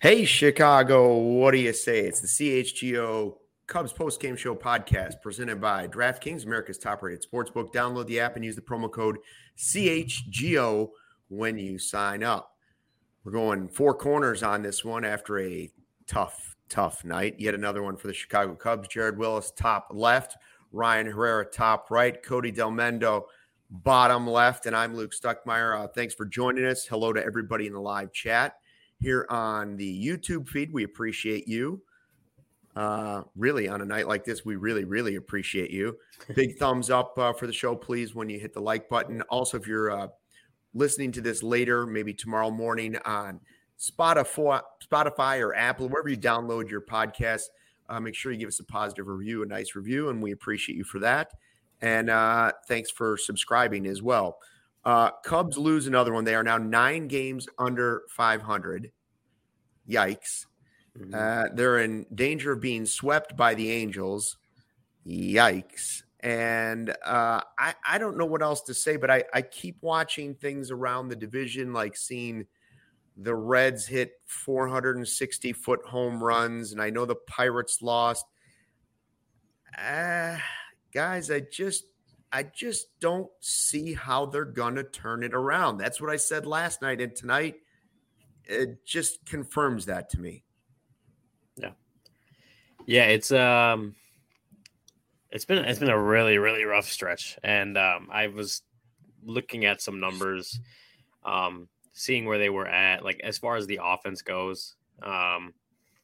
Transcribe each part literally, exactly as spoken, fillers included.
Hey, Chicago, what do you say? It's the C H G O Cubs Post-Game Show podcast presented by DraftKings, America's top-rated sportsbook. Download the app and use the promo code C H G O when you sign up. We're going four corners on this one after a tough, tough night. Yet another one for the Chicago Cubs. Jared Willis, top left. Ryan Herrera, top right. Cody Delmendo, bottom left. And I'm Luke Stuckmeyer. Uh, thanks for joining us. Hello to everybody in the live chat here on the YouTube feed. We appreciate you. Uh, really, on a night like this, we really, really appreciate you. Big thumbs up uh, for the show, please, when you hit the like button. Also, if you're uh, listening to this later, maybe tomorrow morning on Spotify, Spotify or Apple, wherever you download your podcast, uh, make sure you give us a positive review, a nice review, and we appreciate you for that. And uh, thanks for subscribing as well. Uh, Cubs lose another one. They are now nine games under five hundred. Yikes. Mm-hmm. Uh, they're in danger of being swept by the Angels. Yikes. And uh, I, I don't know what else to say, but I, I keep watching things around the division, like seeing the Reds hit four hundred sixty foot home runs. And I know the Pirates lost. Uh, guys, I just, I just don't see how they're going to turn it around. That's what I said last night. And tonight, it just confirms that to me. Yeah. Yeah, it's um it's been it's been a really, really rough stretch. And um I was looking at some numbers, um, seeing where they were at, like as far as the offense goes. Um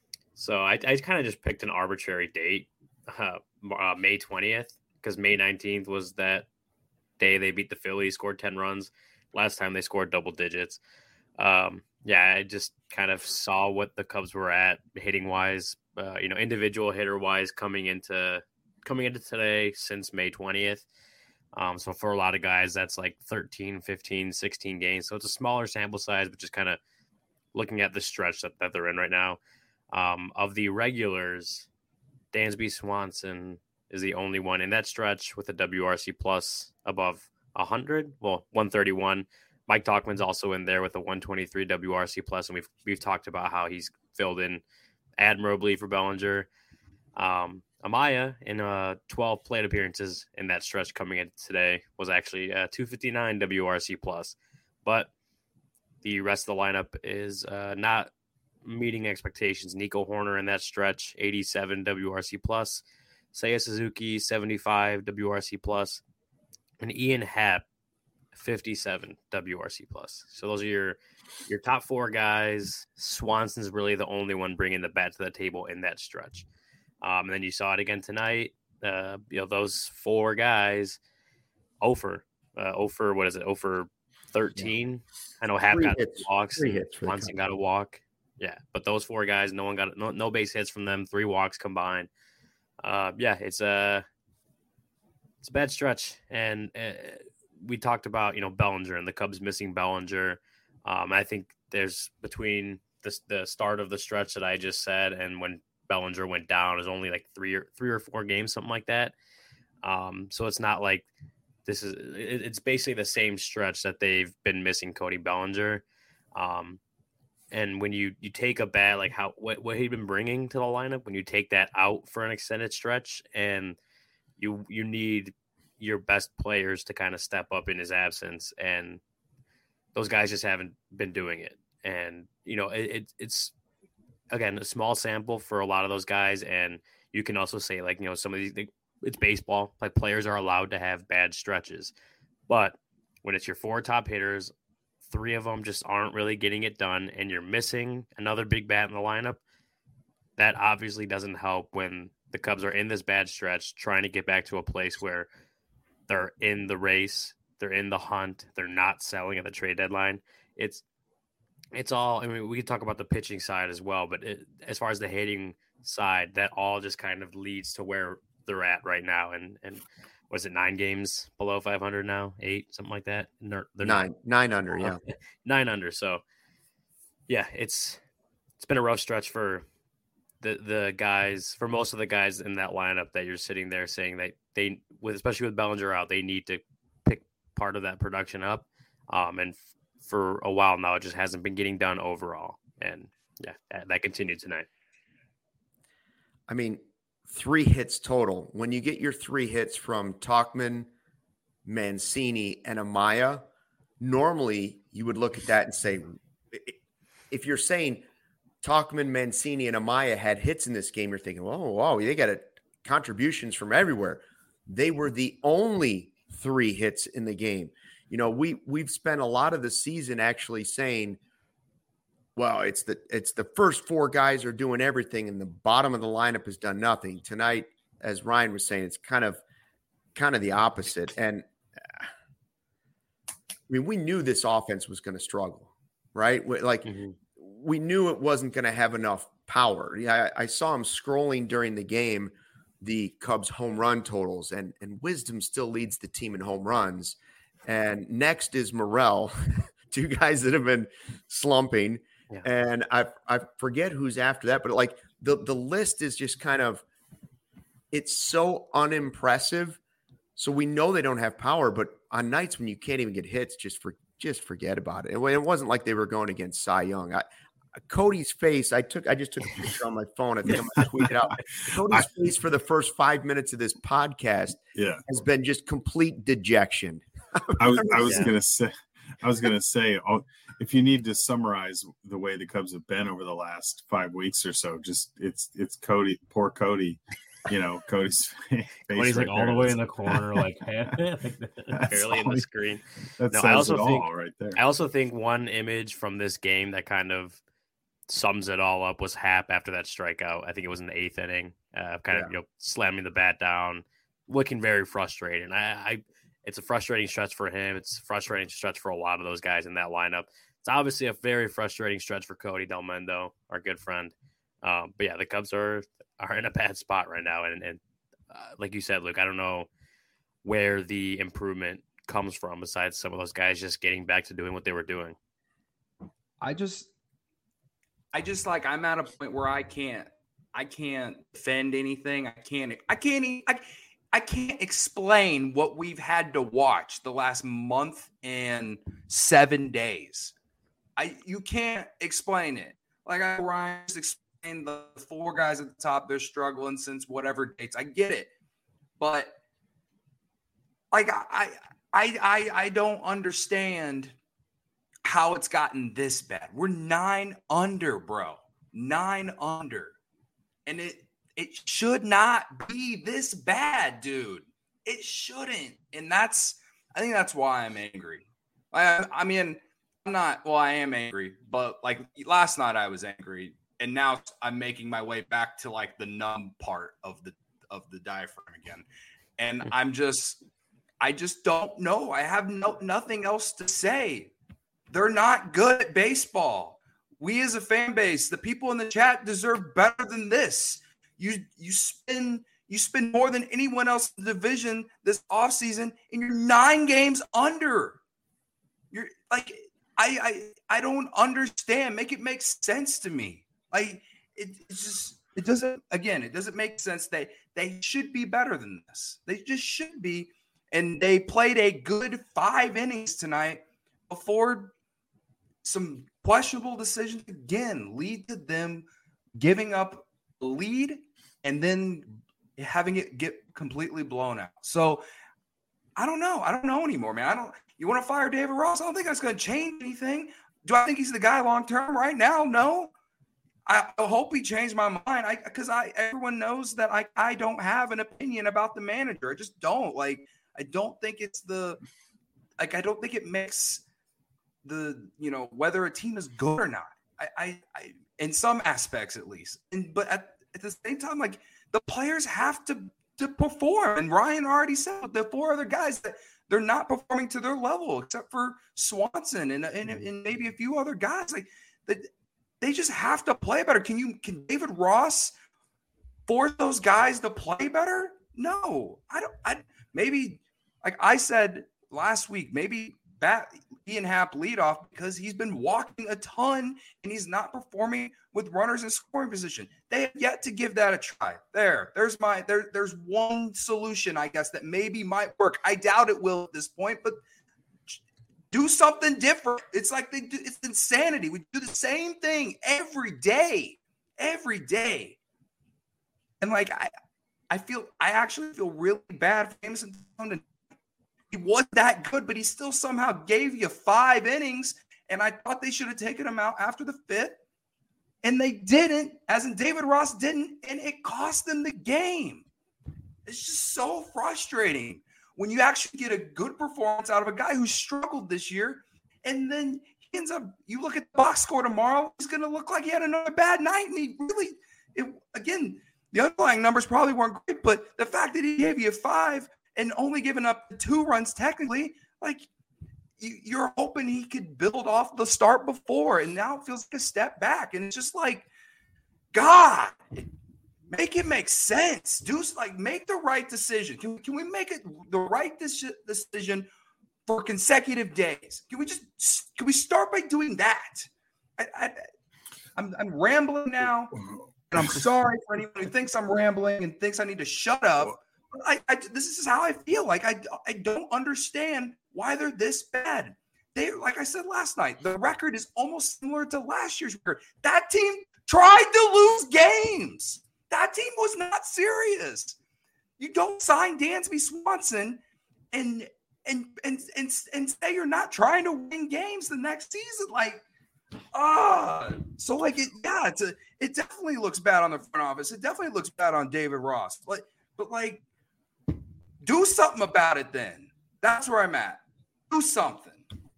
so I, I kind of just picked an arbitrary date, uh, uh May twentieth, because May nineteenth was that day they beat the Phillies, scored ten runs. Last time they scored double digits. Um, yeah, I just kind of saw what the Cubs were at hitting wise, uh, you know, individual hitter wise coming into coming into today since May twentieth. Um, so for a lot of guys, that's like thirteen, fifteen, sixteen games. So it's a smaller sample size, but just kind of looking at the stretch that, that they're in right now. Um, of the regulars, Dansby Swanson is the only one in that stretch with a W R C plus above one hundred, well, one thirty-one. Mike Tauchman's also in there with a one twenty-three W R C plus, and we've we've talked about how he's filled in admirably for Bellinger. Um, Amaya, in uh, twelve plate appearances in that stretch coming in today, was actually a two fifty-nine W R C plus, but the rest of the lineup is uh, not meeting expectations. Nico Horner in that stretch, eighty-seven W R C plus, Seiya Suzuki, seventy-five W R C plus, and Ian Happ, fifty-seven W R C plus. So those are your your top four guys. Swanson's really the only one bringing the bat to the table in that stretch. Um, and then you saw it again tonight. Uh, you know, those four guys, Ofer, uh, Ofer, what is it? Ofer thirteen. Yeah. I know Hap got hits. walks. Three hits. Swanson got a walk. Yeah, but those four guys, no one got no, no base hits from them. Three walks combined. Uh, yeah, it's a it's a bad stretch, and uh, we talked about, you know, Bellinger and the Cubs missing Bellinger. Um, I think there's between the the start of the stretch that I just said and when Bellinger went down is only like three or three or four games, something like that. Um, so it's not like this is it, it's basically the same stretch that they've been missing Cody Bellinger. Um, and when you you take a bat like how what what he'd been bringing to the lineup, when you take that out for an extended stretch, and you you need your best players to kind of step up in his absence, and those guys just haven't been doing it. And, you know, it, it, it's, again, a small sample for a lot of those guys. And you can also say, like, you know, some of these, it's baseball, like players are allowed to have bad stretches. But when it's your four top hitters, three of them just aren't really getting it done, and you're missing another big bat in the lineup, that obviously doesn't help when the Cubs are in this bad stretch, trying to get back to a place where they're in the race, they're in the hunt, they're not selling at the trade deadline. It's it's all, I mean, we can talk about the pitching side as well, but it, as far as the hitting side, that all just kind of leads to where they're at right now. And, and was it nine games below five hundred now? Eight, something like that? They're, they're nine, not, nine under, yeah. Nine under. So, yeah, it's it's been a rough stretch for the the guys, for most of the guys in that lineup that you're sitting there saying that they, with especially with Bellinger out, they need to pick part of that production up. Um, and f- for a while now, it just hasn't been getting done overall. And Yeah, that, that continued tonight. I mean, three hits total. When you get your three hits from Tauchman, Mancini, and Amaya, normally you would look at that and say, if you're saying Tauchman, Mancini, and Amaya had hits in this game, you're thinking, oh, wow, they got a, contributions from everywhere. They were the only three hits in the game. You know, we we've spent a lot of the season actually saying, well, it's the it's the first four guys are doing everything, and the bottom of the lineup has done nothing. Tonight, as Ryan was saying, it's kind of kind of the opposite. And I mean, we knew this offense was going to struggle, right? Like mm-hmm. we knew it wasn't going to have enough power. Yeah, I, I saw him scrolling during the game, the Cubs home run totals, and and Wisdom still leads the team in home runs. And next is Morel, two guys that have been slumping. Yeah. And I I forget who's after that, but like the, the list is just kind of, it's so unimpressive. So we know they don't have power, but on nights when you can't even get hits, just for just forget about it. It wasn't like they were going against Cy Young. I, Cody's face, I took I just took a picture on my phone. I think I'm gonna tweet it out. Cody's I, face for the first five minutes of this podcast yeah. has been just complete dejection. I was I was yeah. gonna say I was gonna say if you need to summarize the way the Cubs have been over the last five weeks or so, just it's it's Cody, poor Cody. You know, Cody's face Cody's right like all the way in the corner, like barely in the screen. That no, says I also it think all right there. I also think one image from this game that kind of sums it all up was Happ after that strikeout. I think it was in the eighth inning, uh, kind yeah. of you know slamming the bat down, looking very frustrated. I, I it's a frustrating stretch for him. It's a frustrating stretch for a lot of those guys in that lineup. It's obviously a very frustrating stretch for Cody Delmendo, our good friend. Um, but yeah, the Cubs are are in a bad spot right now, and and uh, like you said, Luke, I don't know where the improvement comes from besides some of those guys just getting back to doing what they were doing. I just. I just like I'm at a point where I can't I can't defend anything. I can't I can't I, I can't explain what we've had to watch the last month and seven days. I you can't explain it. Like I Ryan just explained the four guys at the top, they're struggling since whatever dates. I get it. But like I I I I don't understand how it's gotten this bad. We're nine under, bro. Nine under. And it it should not be this bad, dude. It shouldn't. And that's, I think that's why I'm angry. I, I mean, I'm not, well, I am angry, but like last night I was angry. And now I'm making my way back to like the numb part of the, of the diaphragm again. And I'm just, I just don't know. I have no, nothing else to say. They're not good at baseball. We as a fan base, the people in the chat deserve better than this. You you spend you spend more than anyone else in the division this offseason, and you're nine games under. You're like I I I don't understand. Make it make sense to me. Like it, it's just it doesn't again, it doesn't make sense. They they should be better than this. They just should be. And they played a good five innings tonight before some questionable decisions again lead to them giving up a lead and then having it get completely blown out. So I don't know. I don't know anymore, man. I don't. You want to fire David Ross? I don't think that's going to change anything. Do I think he's the guy long term right now? No. I, I hope he changed my mind. I because I everyone knows that I I don't have an opinion about the manager. I just don't like. I don't think it's the like. I don't think it makes the, you know, whether a team is good or not, I, I, I in some aspects at least. And but at, at the same time, like the players have to to perform. And Ryan already said the four other guys that they're not performing to their level, except for Swanson and and, and maybe a few other guys. Like that, they just have to play better. Can you can David Ross force those guys to play better? No, I don't. I maybe like I said last week, maybe. Bat Ian Happ leadoff because he's been walking a ton and he's not performing with runners in scoring position. They have yet to give that a try. There, there's my there. There's one solution, I guess, that maybe might work. I doubt it will at this point, but do something different. It's like they do, it's insanity. We do the same thing every day, every day. And like, I, I feel, I actually feel really bad for Jameson. He wasn't that good, but he still somehow gave you five innings. And I thought they should have taken him out after the fifth. And they didn't, as in David Ross didn't, and it cost them the game. It's just so frustrating when you actually get a good performance out of a guy who struggled this year, and then he ends up, you look at the box score tomorrow, he's going to look like he had another bad night. And he really, it, again, the underlying numbers probably weren't great, but the fact that he gave you five and only giving up two runs technically, like, you're hoping he could build off the start before, and now it feels like a step back. And it's just like, God, make it make sense. Do like make the right decision. Can, can we make it the right decision for consecutive days? Can we just can we start by doing that? I, I, I'm I'm rambling now, and I'm sorry for anyone who thinks I'm rambling and thinks I need to shut up. I, I this is how I feel. Like I I don't understand why they're this bad. They, like I said last night, the record is almost similar to last year's record. That team tried to lose games. That team was not serious. You don't sign Dansby Swanson and and and and and say you're not trying to win games the next season. Like, ah, uh, so like it, yeah, it's a, it definitely looks bad on the front office. It definitely looks bad on David Ross. But but like, do something about it then. That's where I'm at. Do something.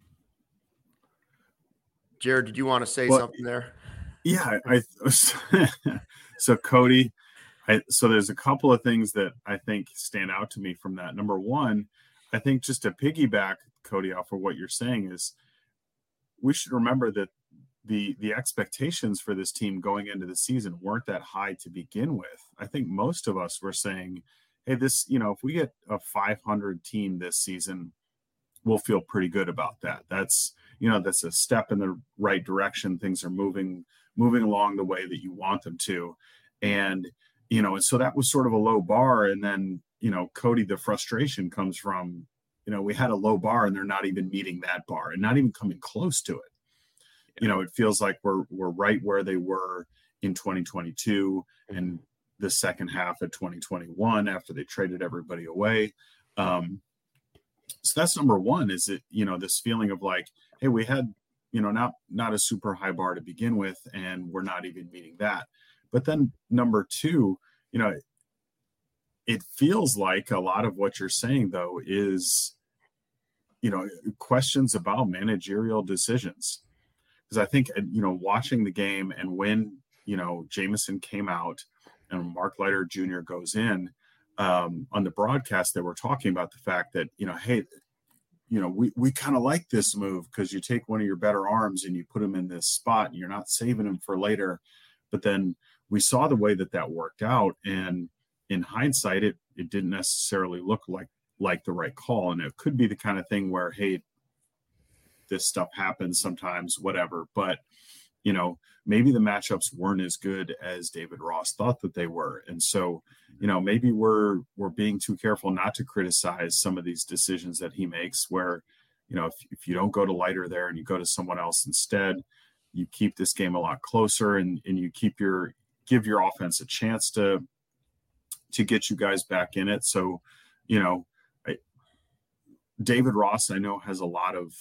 Jared, did you want to say well, something there? Yeah, I, I so Cody, I, so there's a couple of things that I think stand out to me from that. Number one, I think just to piggyback, Cody, off of what you're saying is we should remember that the the expectations for this team going into the season weren't that high to begin with. I think most of us were saying, hey, this, you know, if we get a five hundred team this season, we'll feel pretty good about that. That's, you know, that's a step in the right direction. Things are moving, moving along the way that you want them to. And, you know, and so that was sort of a low bar. And then, you know, Cody, the frustration comes from, you know, we had a low bar and they're not even meeting that bar and not even coming close to it. You know, it feels like we're, we're right where they were in twenty twenty-two and the second half of twenty twenty-one after they traded everybody away. Um, So that's number one, is it, you know, this feeling of like, hey, we had, you know, not, not a super high bar to begin with, and we're not even meeting that. But then number two, you know, it feels like a lot of what you're saying, though, is, you know, questions about managerial decisions. Because I think, you know, watching the game and when, you know, Jameson came out and Mark Leiter Junior goes in, Um, on the broadcast, they were talking about the fact that, you know, hey, you know, we, we kind of like this move because you take one of your better arms and you put him in this spot and you're not saving him for later. But then we saw the way that that worked out. And in hindsight, it, it didn't necessarily look like, like the right call. And it could be the kind of thing where, hey, this stuff happens sometimes, whatever. But, you know, maybe the matchups weren't as good as David Ross thought that they were. And so, you know, maybe we're, we're being too careful not to criticize some of these decisions that he makes where, you know, if, if you don't go to Leiter there and you go to someone else instead, you keep this game a lot closer and, and you keep your, give your offense a chance to, to get you guys back in it. So, you know, I, David Ross, I know, has a lot of,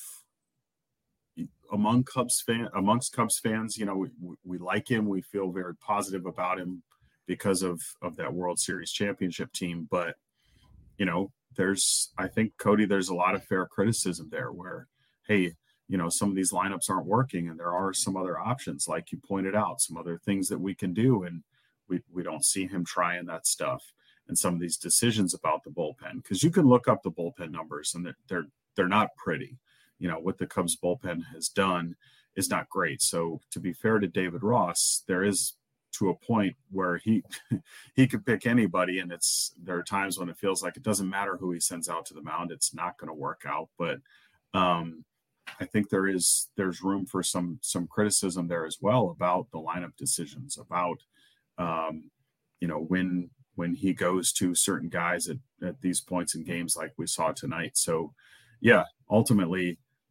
among Cubs fan amongst Cubs fans, you know, we, we like him. We feel very positive about him because of, of that World Series championship team. But, you know, there's, I think, Cody, there's a lot of fair criticism there where, hey, you know, some of these lineups aren't working and there are some other options, like you pointed out, some other things that we can do. And we, we don't see him trying that stuff and some of these decisions about the bullpen, because you can look up the bullpen numbers and they're, they're, they're not pretty. You know, what the Cubs bullpen has done is not great. So to be fair to David Ross, there is to a point where he he could pick anybody, and it's there are times when it feels like it doesn't matter who he sends out to the mound, it's not going to work out. But um, I think there is there's room for some some criticism there as well about the lineup decisions, about um, you know when when he goes to certain guys at, at these points in games like we saw tonight. So yeah, ultimately,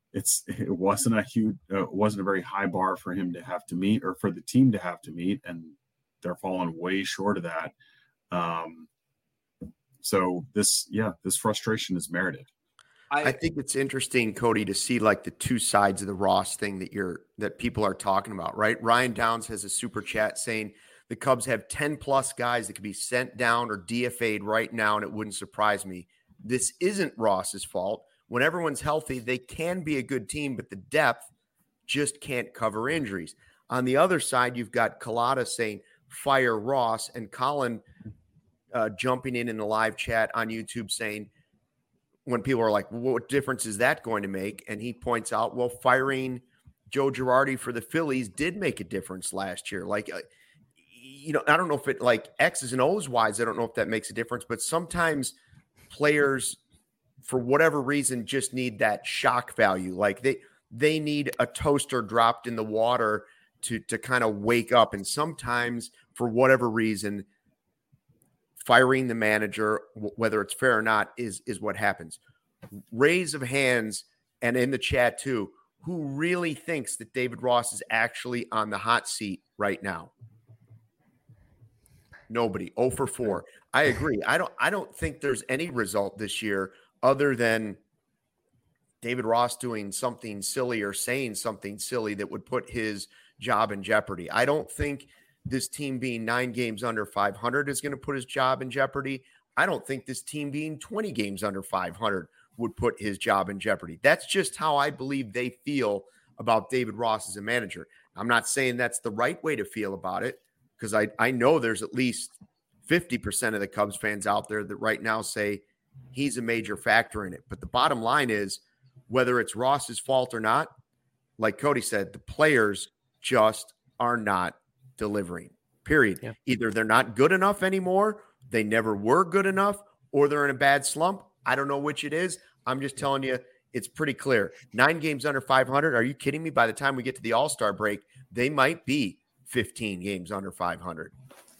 it's it wasn't a huge, uh, wasn't a very high bar for him to have to meet, or for the team to have to meet, and they're falling way short of that. Um, so this, yeah, this frustration is merited. I, I think it's interesting, Cody, to see like the two sides of the Ross thing that you're that people are talking about, right? Ryan Downs has a super chat saying the Cubs have ten plus guys that could be sent down or D F A'd right now, and it wouldn't surprise me. This isn't Ross's fault. When everyone's healthy, they can be a good team, but the depth just can't cover injuries. On the other side, you've got Collada saying fire Ross, and Colin uh, jumping in in the live chat on YouTube saying, when people are like, well, what difference is that going to make? And he points out, well, firing Joe Girardi for the Phillies did make a difference last year. Like, uh, you know, I don't know if it like X's and O's wise, I don't know if that makes a difference, but sometimes players, for whatever reason, just need that shock value. Like they, they need a toaster dropped in the water to, to kind of wake up. And sometimes for whatever reason, firing the manager, whether it's fair or not, is, is what happens. Raise of hands, and in the chat too, who really thinks that David Ross is actually on the hot seat right now? Nobody. oh for four. I agree. I don't I don't think there's any result this year other than David Ross doing something silly or saying something silly that would put his job in jeopardy. I don't think this team being nine games under five hundred is going to put his job in jeopardy. I don't think this team being twenty games under five hundred would put his job in jeopardy. That's just how I believe they feel about David Ross as a manager. I'm not saying that's the right way to feel about it, because I, I know there's at least fifty percent of the Cubs fans out there that right now say he's a major factor in it. But the bottom line is, whether it's Ross's fault or not, like Cody said, the players just are not delivering, period. Yeah. Either they're not good enough anymore, they never were good enough, or they're in a bad slump. I don't know which it is. I'm just telling you, it's pretty clear. Nine games under five hundred. Are you kidding me? By the time we get to the All-Star break, they might be fifteen games under five hundred.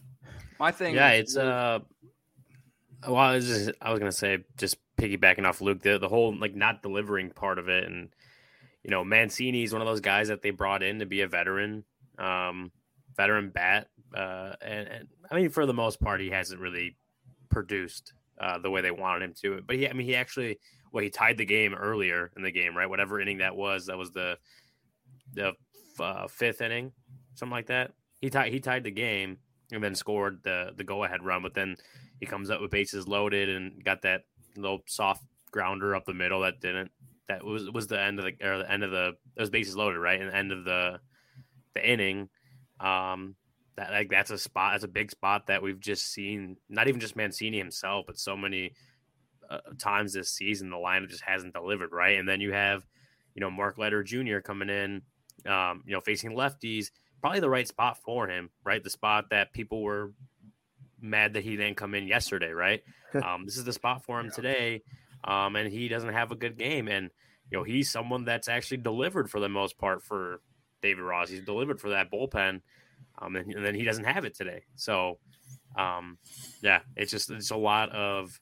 My thing. Yeah, it's uh, well, I was, just, I was gonna say, just piggybacking off Luke, the the whole like not delivering part of it, and you know, Mancini is one of those guys that they brought in to be a veteran, um, veteran bat, uh, and, and I mean, for the most part, he hasn't really produced uh, the way they wanted him to. But he, I mean, he actually, well, he tied the game earlier in the game, right? Whatever inning that was, that was the the uh, fifth inning, something like that. He tied he tied the game and then scored the the go ahead run. But then he comes up with bases loaded and got that little soft grounder up the middle that didn't. That was was the end of the or the end of the it was bases loaded, right? And the end of the the inning. Um, that like that's a spot, that's a big spot that we've just seen. Not even just Mancini himself, but so many uh, times this season the lineup just hasn't delivered, right? And then you have, you know, Mark Leiter Junior coming in, um, you know, facing lefties, probably the right spot for him, right? The spot that people were mad that he didn't come in yesterday, right? um, this is the spot for him yeah. today, um, and he doesn't have a good game, and you know, he's someone that's actually delivered for the most part for David Ross. He's delivered for that bullpen, um, and, and then he doesn't have it today. So, um, yeah, it's just it's a lot of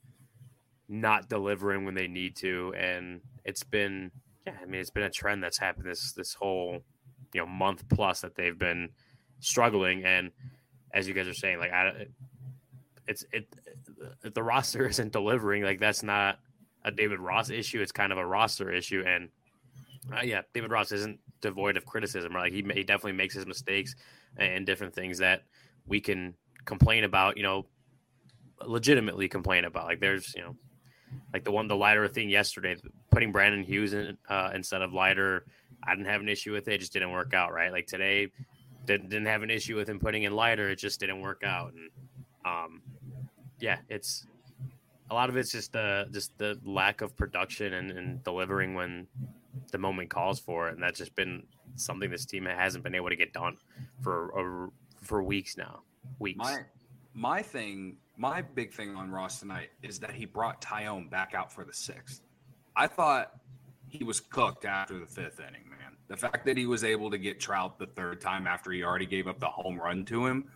not delivering when they need to, and it's been yeah, I mean, it's been a trend that's happened this this whole you know month plus that they've been struggling. And as you guys are saying, like I, it's it if the roster isn't delivering, like that's not a David Ross issue. It's kind of a roster issue, and uh, yeah, David Ross isn't devoid of criticism. Right? Like he he definitely makes his mistakes and different things that we can complain about. You know, legitimately complain about. Like there's you know, like the one the Leiter thing yesterday, putting Brandon Hughes in uh, instead of Leiter. I didn't have an issue with it. It just didn't work out. Right? Like today, didn't didn't have an issue with him putting in Leiter. It just didn't work out. And um, yeah, it's. A lot of it's just the just the lack of production and, and delivering when the moment calls for it, and that's just been something this team hasn't been able to get done for uh, for weeks now. Weeks. My my thing, my big thing on Ross tonight is that he brought Tyone back out for the sixth. I thought he was cooked after the fifth inning, man. The fact that he was able to get Trout the third time after he already gave up the home run to him.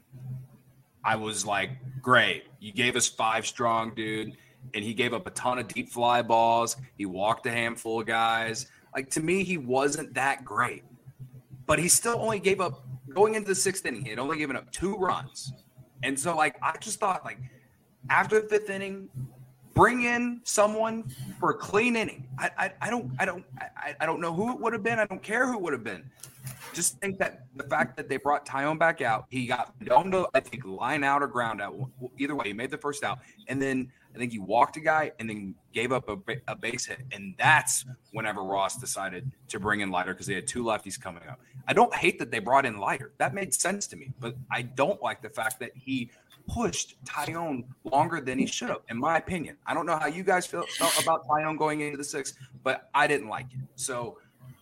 I was like, great. You gave us five strong, dude. And he gave up a ton of deep fly balls. He walked a handful of guys. Like, to me, he wasn't that great. But he still only gave up, going into the sixth inning, he had only given up two runs. And so, like, I just thought, like, after the fifth inning, bring in someone for a clean inning. I, I, I don't, I don't, I, I don't know who it would have been. I don't care who it would have been. Just think that the fact that they brought Taillon back out, he got down to, I think, line out or ground out. Either way, he made the first out, and then I think he walked a guy and then gave up a, a base hit, and that's whenever Ross decided to bring in Leiter because they had two lefties coming up. I don't hate that they brought in Leiter. That made sense to me, but I don't like the fact that he pushed Taillon longer than he should have, in my opinion. I don't know how you guys feel, felt about Taillon going into the sixth, but I didn't like it. So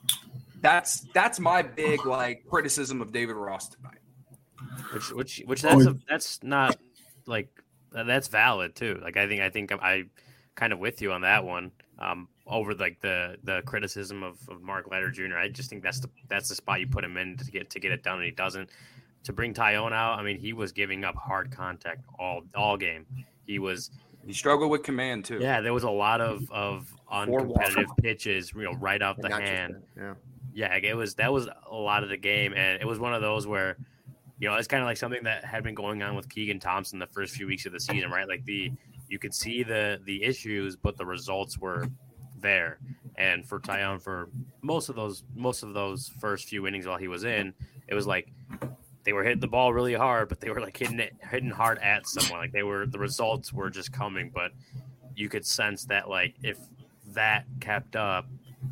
that's that's my big like criticism of David Ross tonight. Which which which that's a, that's not like that's valid too. Like I think I think I kind of with you on that one. Um, over like the the criticism of, of Mark Leiter Junior I just think that's the that's the spot you put him in to get to get it done, and he doesn't. To bring Taillon out, I mean, he was giving up hard contact all all game. He was he struggled with command too. Yeah, there was a lot of of uncompetitive pitches, you know, right out the hand. Yeah, yeah, it was that was a lot of the game, and it was one of those where, you know, it's kind of like something that had been going on with Keegan Thompson the first few weeks of the season, right? Like the you could see the the issues, but the results were there. And for Taillon, for most of those most of those first few innings while he was in, it was like they were hitting the ball really hard, but they were like hitting it, hitting hard at someone. Like they were, the results were just coming, but you could sense that like if that kept up,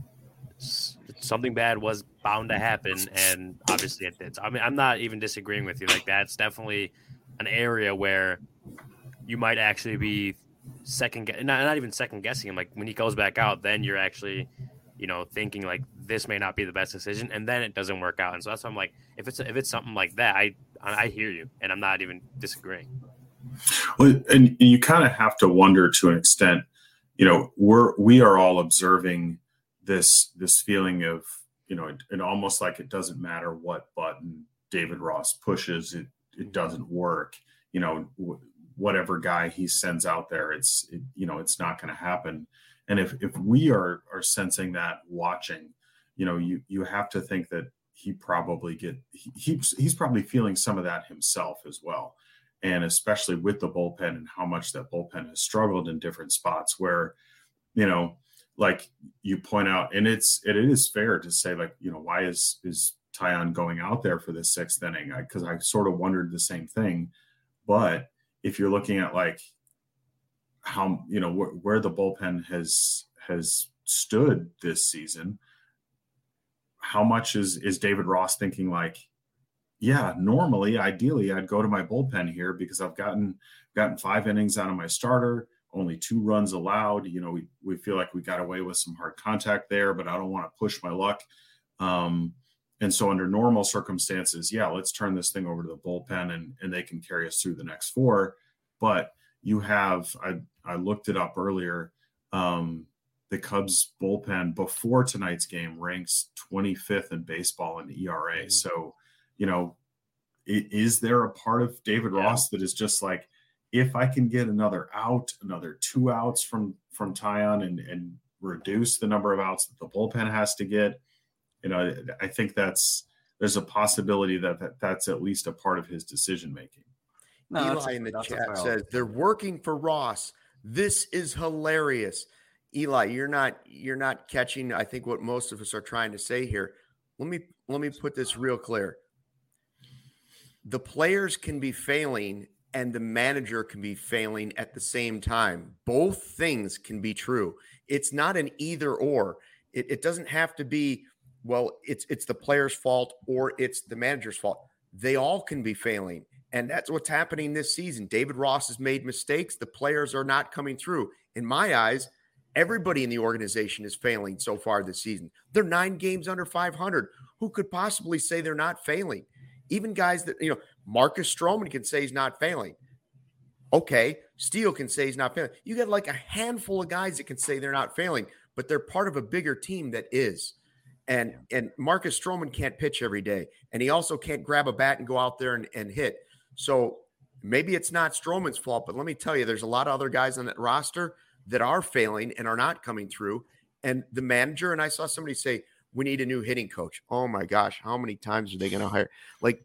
something bad was bound to happen, and obviously it did. I mean, I'm not even disagreeing with you. Like that's definitely an area where you might actually be second, not not even second guessing him. Like when he goes back out, then you're actually, you know, thinking like this may not be the best decision, and then it doesn't work out. And so that's why I'm like, if it's if it's something like that, I I hear you, and I'm not even disagreeing. Well, and you kind of have to wonder to an extent, you know, we're we are all observing this this feeling of, you know, it, it almost like it doesn't matter what button David Ross pushes, it it doesn't work. You know, w- whatever guy he sends out there, it's it, you know, it's not going to happen. And if, if we are, are sensing that watching, you know, you, you have to think that he probably get, he, he's, he's probably feeling some of that himself as well. And especially with the bullpen and how much that bullpen has struggled in different spots where, you know, like you point out, and it's, it is fair to say like, you know, why is, is Taillon going out there for the sixth inning? I, Cause I sort of wondered the same thing, but if you're looking at like, how, you know, wh- where the bullpen has has stood this season, how much is is David Ross thinking like, yeah, normally, ideally, I'd go to my bullpen here because I've gotten gotten five innings out of my starter, only two runs allowed. You know, we we feel like we got away with some hard contact there, but I don't want to push my luck. Um, and so under normal circumstances, yeah, let's turn this thing over to the bullpen and and they can carry us through the next four. But you have, I, I looked it up earlier, um, the Cubs bullpen before tonight's game ranks twenty-fifth in baseball in E R A. Mm-hmm. So, you know, it, is there a part of David yeah. Ross that is just like, if I can get another out, another two outs from, from Taillon and, and reduce the number of outs that the bullpen has to get, you know, I think that's, there's a possibility that, that that's at least a part of his decision-making. No, Eli a, in the chat says they're working for Ross. This is hilarious. Eli, you're not you're not catching, I think, what most of us are trying to say here. Let me let me put this real clear. The players can be failing and the manager can be failing at the same time. Both things can be true. It's not an either or. It, it doesn't have to be, well, it's it's the player's fault or it's the manager's fault. They all can be failing. And that's what's happening this season. David Ross has made mistakes. The players are not coming through. In my eyes, everybody in the organization is failing so far this season. They're nine games under five hundred. Who could possibly say they're not failing? Even guys that, you know, Marcus Stroman can say he's not failing. Okay, Steele can say he's not failing. You got like a handful of guys that can say they're not failing, but they're part of a bigger team that is. And, and Marcus Stroman can't pitch every day. And he also can't grab a bat and go out there and, and hit. So maybe it's not Stroman's fault, but let me tell you, there's a lot of other guys on that roster that are failing and are not coming through. And the manager, and I saw somebody say, we need a new hitting coach. Oh my gosh, how many times are they going to hire? Like,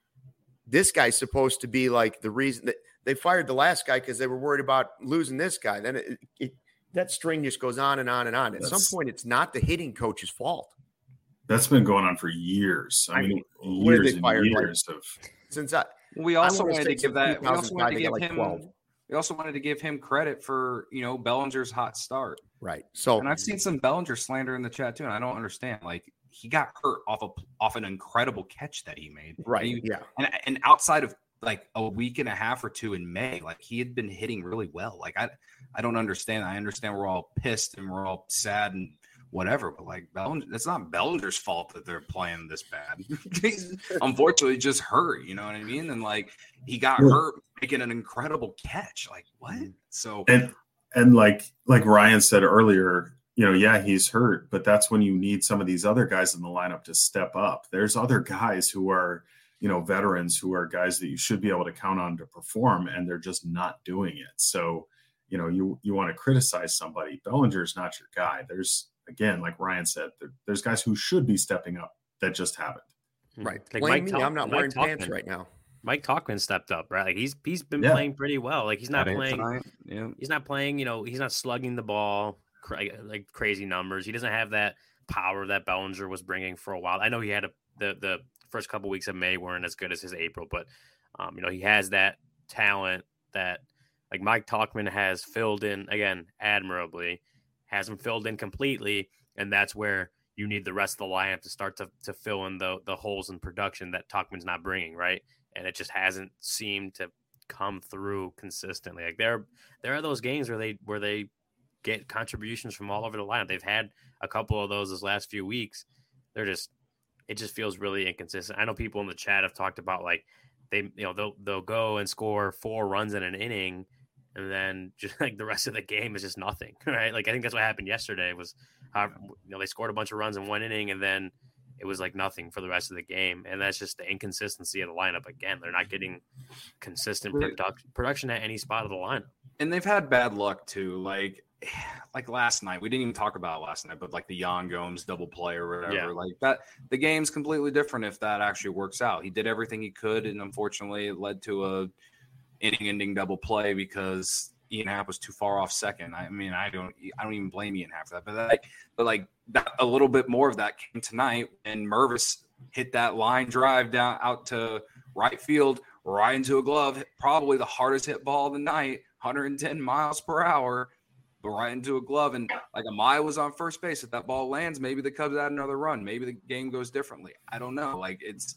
this guy's supposed to be like the reason that they fired the last guy because they were worried about losing this guy. Then it, it, that string just goes on and on and on. At that's, some point, it's not the hitting coach's fault. That's been going on for years. I, I mean, mean years and years like, of since I. We also wanted to give that. We also wanted to give like him. twelve. We also wanted to give him credit for, you know, Bellinger's hot start. Right. So, and I've seen some Bellinger slander in the chat too, and I don't understand. Like, he got hurt off of off an incredible catch that he made. Right. And he, yeah. And and outside of like a week and a half or two in May, like he had been hitting really well. Like I, I don't understand. I understand we're all pissed and we're all sad and whatever, but like Bellinger, it's not Bellinger's fault that they're playing this bad. He's unfortunately just hurt, you know what I mean? And like he got yeah. hurt making an incredible catch. Like what? So and and like like Ryan said earlier, you know, yeah, he's hurt, but that's when you need some of these other guys in the lineup to step up. There's other guys who are, you know, veterans who are guys that you should be able to count on to perform, and they're just not doing it. So, you know, you you want to criticize somebody. Bellinger's not your guy. There's Again, like Ryan said, there, there's guys who should be stepping up that just haven't. Right. Like Blame Mike me. Talk- I'm not Mike wearing Talkman. pants right now. Mike Talkman stepped up, right? Like he's he's been Yeah. playing pretty well. Like he's not That playing. tonight, yeah. He's not playing. You know, he's not slugging the ball cra- like crazy numbers. He doesn't have that power that Bellinger was bringing for a while. I know he had a, the the first couple weeks of May weren't as good as his April, but um, you know, he has that talent that like Mike Talkman has filled in again admirably, hasn't filled in completely. And that's where you need the rest of the lineup to start to, to fill in the the holes in production that Talkman's not bringing, right? And it just hasn't seemed to come through consistently. Like there, there are those games where they where they get contributions from all over the lineup. They've had a couple of those this last few weeks. They're just, it just feels really inconsistent. I know people in the chat have talked about like they, you know, they'll they'll go and score four runs in an inning, and then just like the rest of the game is just nothing, right? Like I think that's what happened yesterday was, how, you know, they scored a bunch of runs in one inning and then it was like nothing for the rest of the game. And that's just the inconsistency of the lineup. Again, they're not getting consistent product, production at any spot of the lineup. And they've had bad luck too. Like, like last night, we didn't even talk about it last night, but like the Yan Gomes double play or whatever, Yeah. like that, the game's completely different if that actually works out. He did everything he could, and unfortunately, it led to a inning-ending double play because Ian Happ was too far off second. I mean, I don't, I don't even blame Ian Happ for that. But like, but like that, a little bit more of that came tonight, and Mervis hit that line drive down out to right field, right into a glove, probably the hardest hit ball of the night, one hundred ten miles per hour, but right into a glove. And like Amaya was on first base. If that ball lands, maybe the Cubs add another run. Maybe the game goes differently. I don't know. Like it's,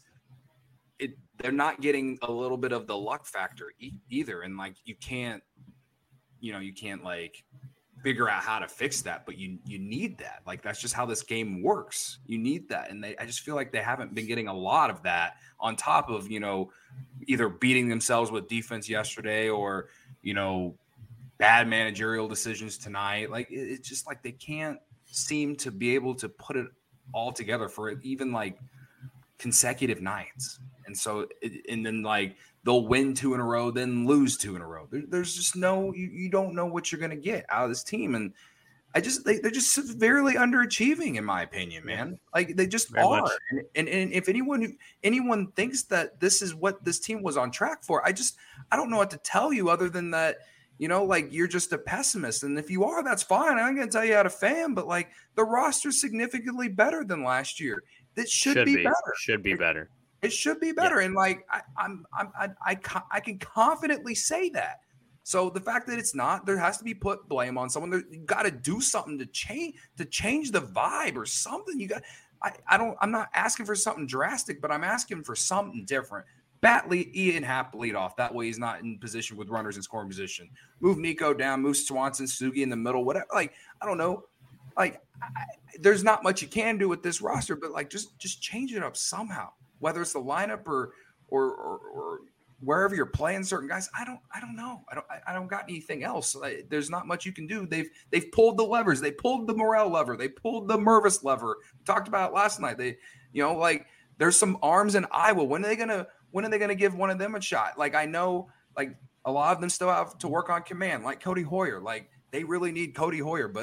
it. They're not getting a little bit of the luck factor e- either. And like you can't, you know, you can't like figure out how to fix that, but you you need that. Like that's just how this game works. You need that, and they I just feel like they haven't been getting a lot of that on top of, you know, either beating themselves with defense yesterday or, you know, bad managerial decisions tonight. Like it, it's just like they can't seem to be able to put it all together for even like consecutive nights. And so, it, and then like they'll win two in a row, then lose two in a row. There, there's just no, you, you don't know what you're going to get out of this team. And I just, they, they're just severely underachieving in my opinion, man. Like they just Very are. much. And, and, and if anyone, who, anyone thinks that this is what this team was on track for, I just, I don't know what to tell you other than that, you know, like you're just a pessimist. And if you are, that's fine. I'm going to tell you how to fan, but like the roster's significantly better than last year. That should, Should be, be, better. should be better. It should be better. Yeah. And like, I, I'm, I'm, I, I, I can confidently say that. So the fact that it's not, there has to be put blame on someone. There, you got to do something to change, to change the vibe or something. You got, I, I don't, I'm not asking for something drastic, but I'm asking for something different. Bat lead, Ian Happ lead off. That way he's not in position with runners in scoring position. Move Nico down, move Swanson, Sugi in the middle, whatever. Like, I don't know. Like, I, there's not much you can do with this roster, but like, just, just change it up somehow. Whether it's the lineup or, or, or, or wherever you're playing certain guys, I don't, I don't know. I don't, I don't got anything else. Like, there's not much you can do. They've, they've pulled the levers. They pulled the Morel lever. They pulled the Mervis lever. We talked about it last night. They, you know, like there's some arms in Iowa. When are they gonna, when are they gonna give one of them a shot? Like I know, like a lot of them still have to work on command. Like Cody Hoyer. Like they really need Cody Hoyer, but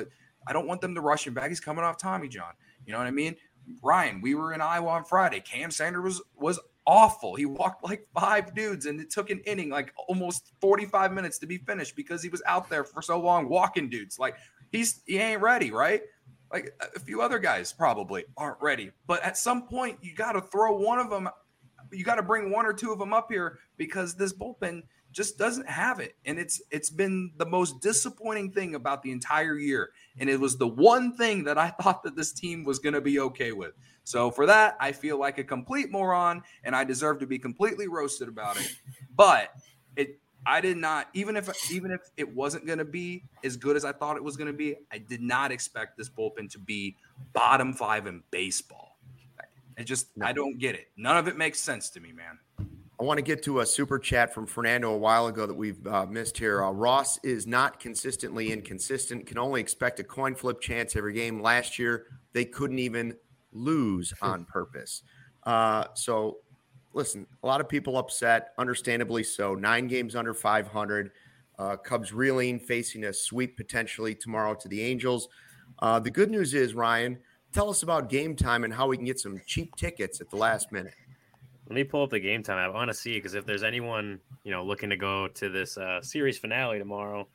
I don't want them to rush him back. He's coming off Tommy John. You know what I mean? Ryan, we were in Iowa on Friday. Cam Sanders was was awful. He walked like five dudes, and it took an inning, like almost forty-five minutes to be finished because he was out there for so long walking dudes. Like he's he ain't ready, right? Like a few other guys probably aren't ready. But at some point, you got to throw one of them. You got to bring one or two of them up here because this bullpen just doesn't have it. And it's it's been the most disappointing thing about the entire year. And it was the one thing that I thought that this team was going to be okay with. So for that, I feel like a complete moron, and I deserve to be completely roasted about it. But it I did not, even if even if it wasn't going to be as good as I thought it was going to be, I did not expect this bullpen to be bottom five in baseball. I just, no. I don't get it. None of it makes sense to me, man. I want to get to a super chat from Fernando a while ago that we've uh, missed here. Uh, Ross is not consistently inconsistent, can only expect a coin flip chance every game. Last year, they couldn't even lose on purpose. Uh, so, listen, a lot of people upset, understandably so. Nine games under five hundred. Uh, Cubs reeling, facing a sweep potentially tomorrow to the Angels. Uh, the good news is, Ryan, tell us about Game Time and how we can get some cheap tickets at the last minute. Let me pull up the Game Time. I want to see, because if there's anyone, you know, looking to go to this uh, series finale tomorrow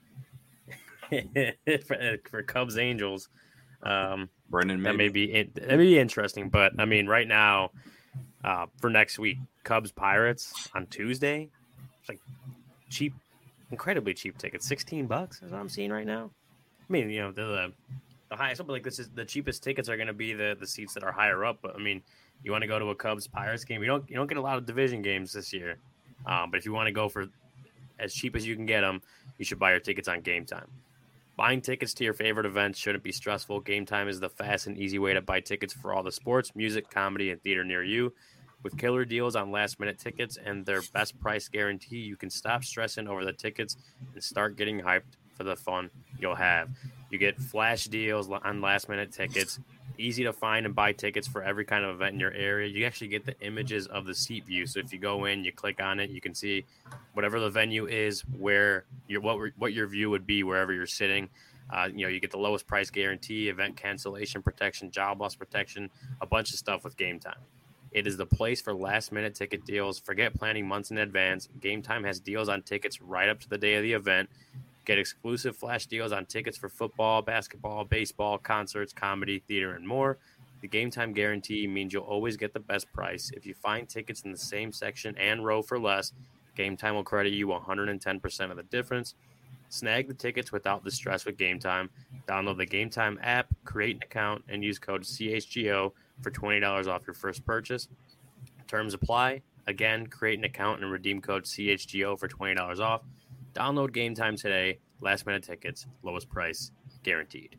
for, for Cubs Angels, um, Brendan, that may be that may be interesting. But I mean, right now, uh, for next week, Cubs Pirates on Tuesday, it's like cheap, incredibly cheap tickets, sixteen bucks is what I'm seeing right now. I mean, you know, the the, the highest, something like this is the cheapest tickets are going to be the the seats that are higher up. But I mean, you want to go to a Cubs Pirates game, you don't you don't get a lot of division games this year. Um, but if you want to go for as cheap as you can get them, you should buy your tickets on Game Time. Buying tickets to your favorite events shouldn't be stressful. Game Time is the fast and easy way to buy tickets for all the sports, music, comedy, and theater near you. With killer deals on last-minute tickets and their best price guarantee, you can stop stressing over the tickets and start getting hyped for the fun you'll have. You get flash deals on last-minute tickets, easy to find and buy tickets for every kind of event in your area. You actually get the images of the seat view. So if you go in, you click on it, you can see whatever the venue is, where your what what your view would be wherever you're sitting. Uh, you know, you get the lowest price guarantee, event cancellation protection, job loss protection, a bunch of stuff with Game Time. It is the place for last-minute ticket deals. Forget planning months in advance. Game Time has deals on tickets right up to the day of the event. Get exclusive flash deals on tickets for football, basketball, baseball, concerts, comedy, theater, and more. The Game Time guarantee means you'll always get the best price. If you find tickets in the same section and row for less, Game Time will credit you one hundred ten percent of the difference. Snag the tickets without the stress with Game Time. Download the Game Time app, create an account, and use code C H G O for twenty dollars off your first purchase. Terms apply. Again, create an account and redeem code C H G O for twenty dollars off. Download Game Time today. Last minute tickets, lowest price, guaranteed.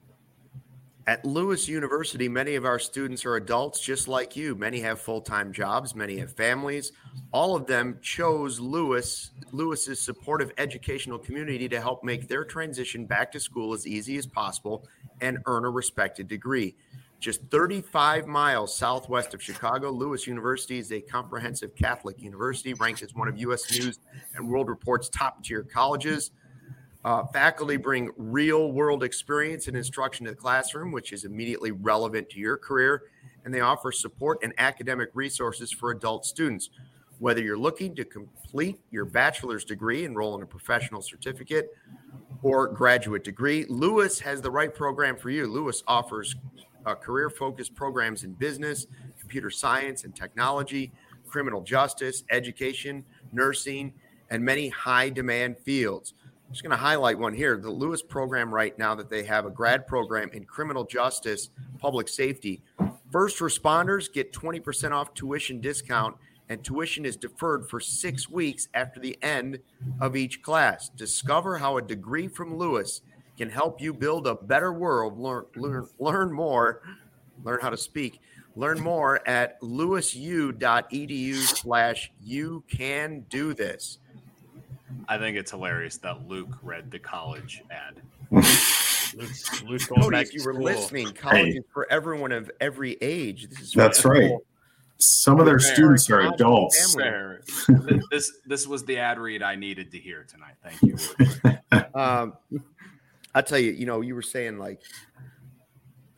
At Lewis University, many of our students are adults just like you. Many have full-time jobs. Many have families. All of them chose Lewis, Lewis's supportive educational community to help make their transition back to school as easy as possible and earn a respected degree. Just thirty-five miles southwest of Chicago, Lewis University is a comprehensive Catholic university ranked as one of U S News and World Report's top-tier colleges. Uh, faculty bring real-world experience and instruction to the classroom, which is immediately relevant to your career, and they offer support and academic resources for adult students. Whether you're looking to complete your bachelor's degree, enroll in a professional certificate, or graduate degree, Lewis has the right program for you. Lewis offers uh, career-focused programs in business, computer science and technology, criminal justice, education, nursing, and many high-demand fields. I'm just going to highlight one here. The Lewis program right now that they have a grad program in criminal justice, public safety. First responders get twenty percent off tuition discount, and tuition is deferred for six weeks after the end of each class. Discover how a degree from Lewis can help you build a better world. Learn, learn, learn more, learn how to speak. Learn more at lewisu.edu slash you can do this. I think it's hilarious that Luke read the college ad. Luke's, Luke's going Cody, back if you to were school. listening, college hey. is for everyone of every age. This is That's right. Some of their Fair. students are adults. this this was the ad read I needed to hear tonight. Thank you. um, I'll tell you, you know, you were saying like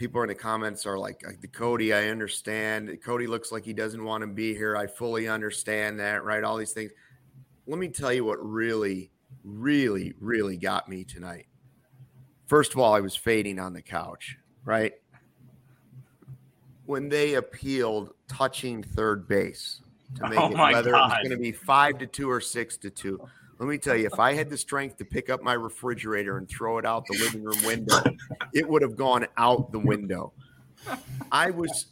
people in the comments are like, the Cody, I understand. Cody looks like he doesn't want to be here. I fully understand that, right? All these things. Let me tell you what really, really, really got me tonight. First of all, I was fading on the couch, right? When they appealed touching third base to make Oh it my whether God. it was going to be five to two or six to two. Let me tell you, if I had the strength to pick up my refrigerator and throw it out the living room window, it would have gone out the window. I was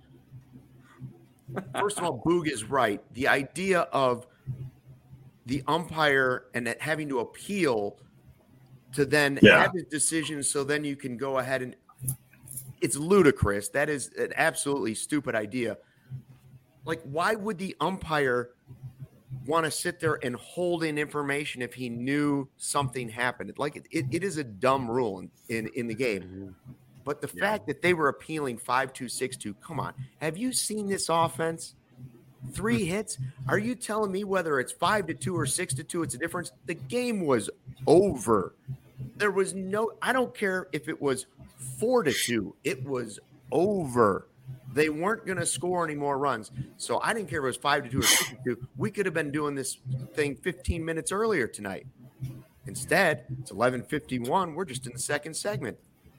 first of all, Boog is right. The idea of the umpire and that having to appeal to then Yeah. have his decision so then you can go ahead and it's ludicrous. That is an absolutely stupid idea. Like, why would the umpire want to sit there and hold in information if he knew something happened? Like, it, it, it is a dumb rule in, in, in the game. But the Yeah. fact that they were appealing five two, six two, come on. Have you seen this offense? Three hits? Are you telling me whether it's five to two or six to two, it's a difference? The game was over. There was no, I don't care if it was four to two. It was over. They weren't going to score any more runs. So I didn't care if it was five to two or six to two. We could have been doing this thing fifteen minutes earlier tonight. Instead, it's eleven fifty-one. We're just in the second segment.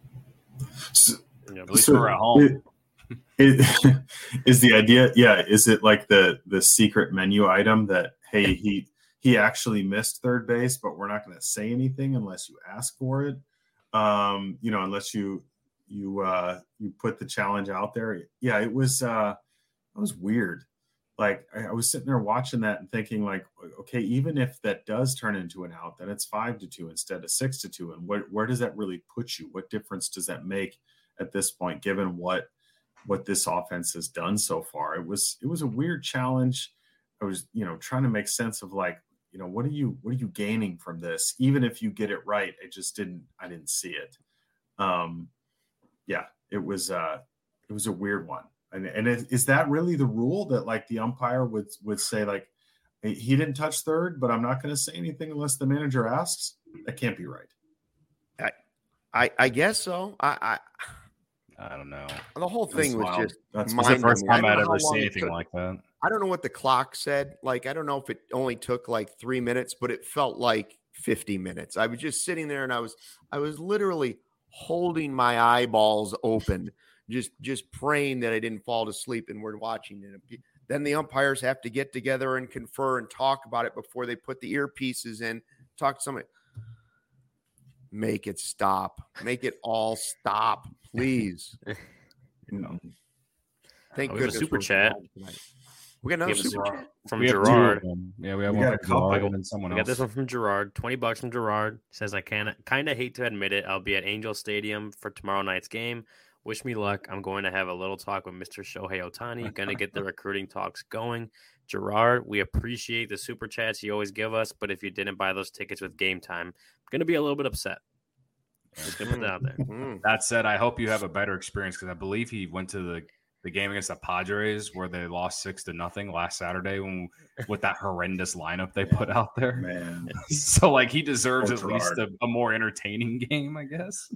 So, Yeah, at least so we're at home. It, it, is the idea? Yeah. Is it like the the secret menu item that hey he he actually missed third base, but we're not going to say anything unless you ask for it. Um, you know, unless you you uh, you put the challenge out there. Yeah, it was uh, it was weird. Like I, I was sitting there watching that and thinking, like, okay, even if that does turn into an out, then it's five to two instead of six to two. And where where does that really put you? What difference does that make at this point, given what what this offense has done so far? It was it was a weird challenge. I was, you know, trying to make sense of like, you know, what are you what are you gaining from this? Even if you get it right, I just didn't I didn't see it. Um, yeah, it was uh, it was a weird one. And and is, is that really the rule that like the umpire would would say like he didn't touch third, but I'm not going to say anything unless the manager asks? That can't be right. I, I, I guess so. I, I don't know. I the whole thing That's was wild. just That's It's the mind first numbing. I time don't I'd know how ever seen long it anything took. like that. I don't know what the clock said. Like, I don't know if it only took like three minutes, but it felt like fifty minutes. I was just sitting there and I was, I was literally holding my eyeballs open, just, just praying that I didn't fall to sleep and we're watching it. Then the umpires have to get together and confer and talk about it before they put the earpieces in, talk to somebody. Make it stop. Make it all stop, please. You know. Thank Oh, we have a goodness super we're chat. home tonight. We got another We have a super super- chat. From We have two Gerard. of them. Yeah, we have We one got a from Gerard couple. and then someone We got else. this one from Gerard. twenty bucks from Gerard. Says, I can kind of hate to admit it. I'll be at Angel Stadium for tomorrow night's game. Wish me luck. I'm going to have a little talk with Mister Shohei Ohtani. Going to get the recruiting talks going. Gerard, we appreciate the super chats you always give us, but if you didn't buy those tickets with Game Time, I'm going to be a little bit upset. Just going to put that out there. Mm. That said, I hope you have a better experience because I believe he went to the, the game against the Padres where they lost six to nothing last Saturday when, with that horrendous lineup they put out there. Man, So, like, he deserves Poor at least Gerard. a, a more entertaining game, I guess.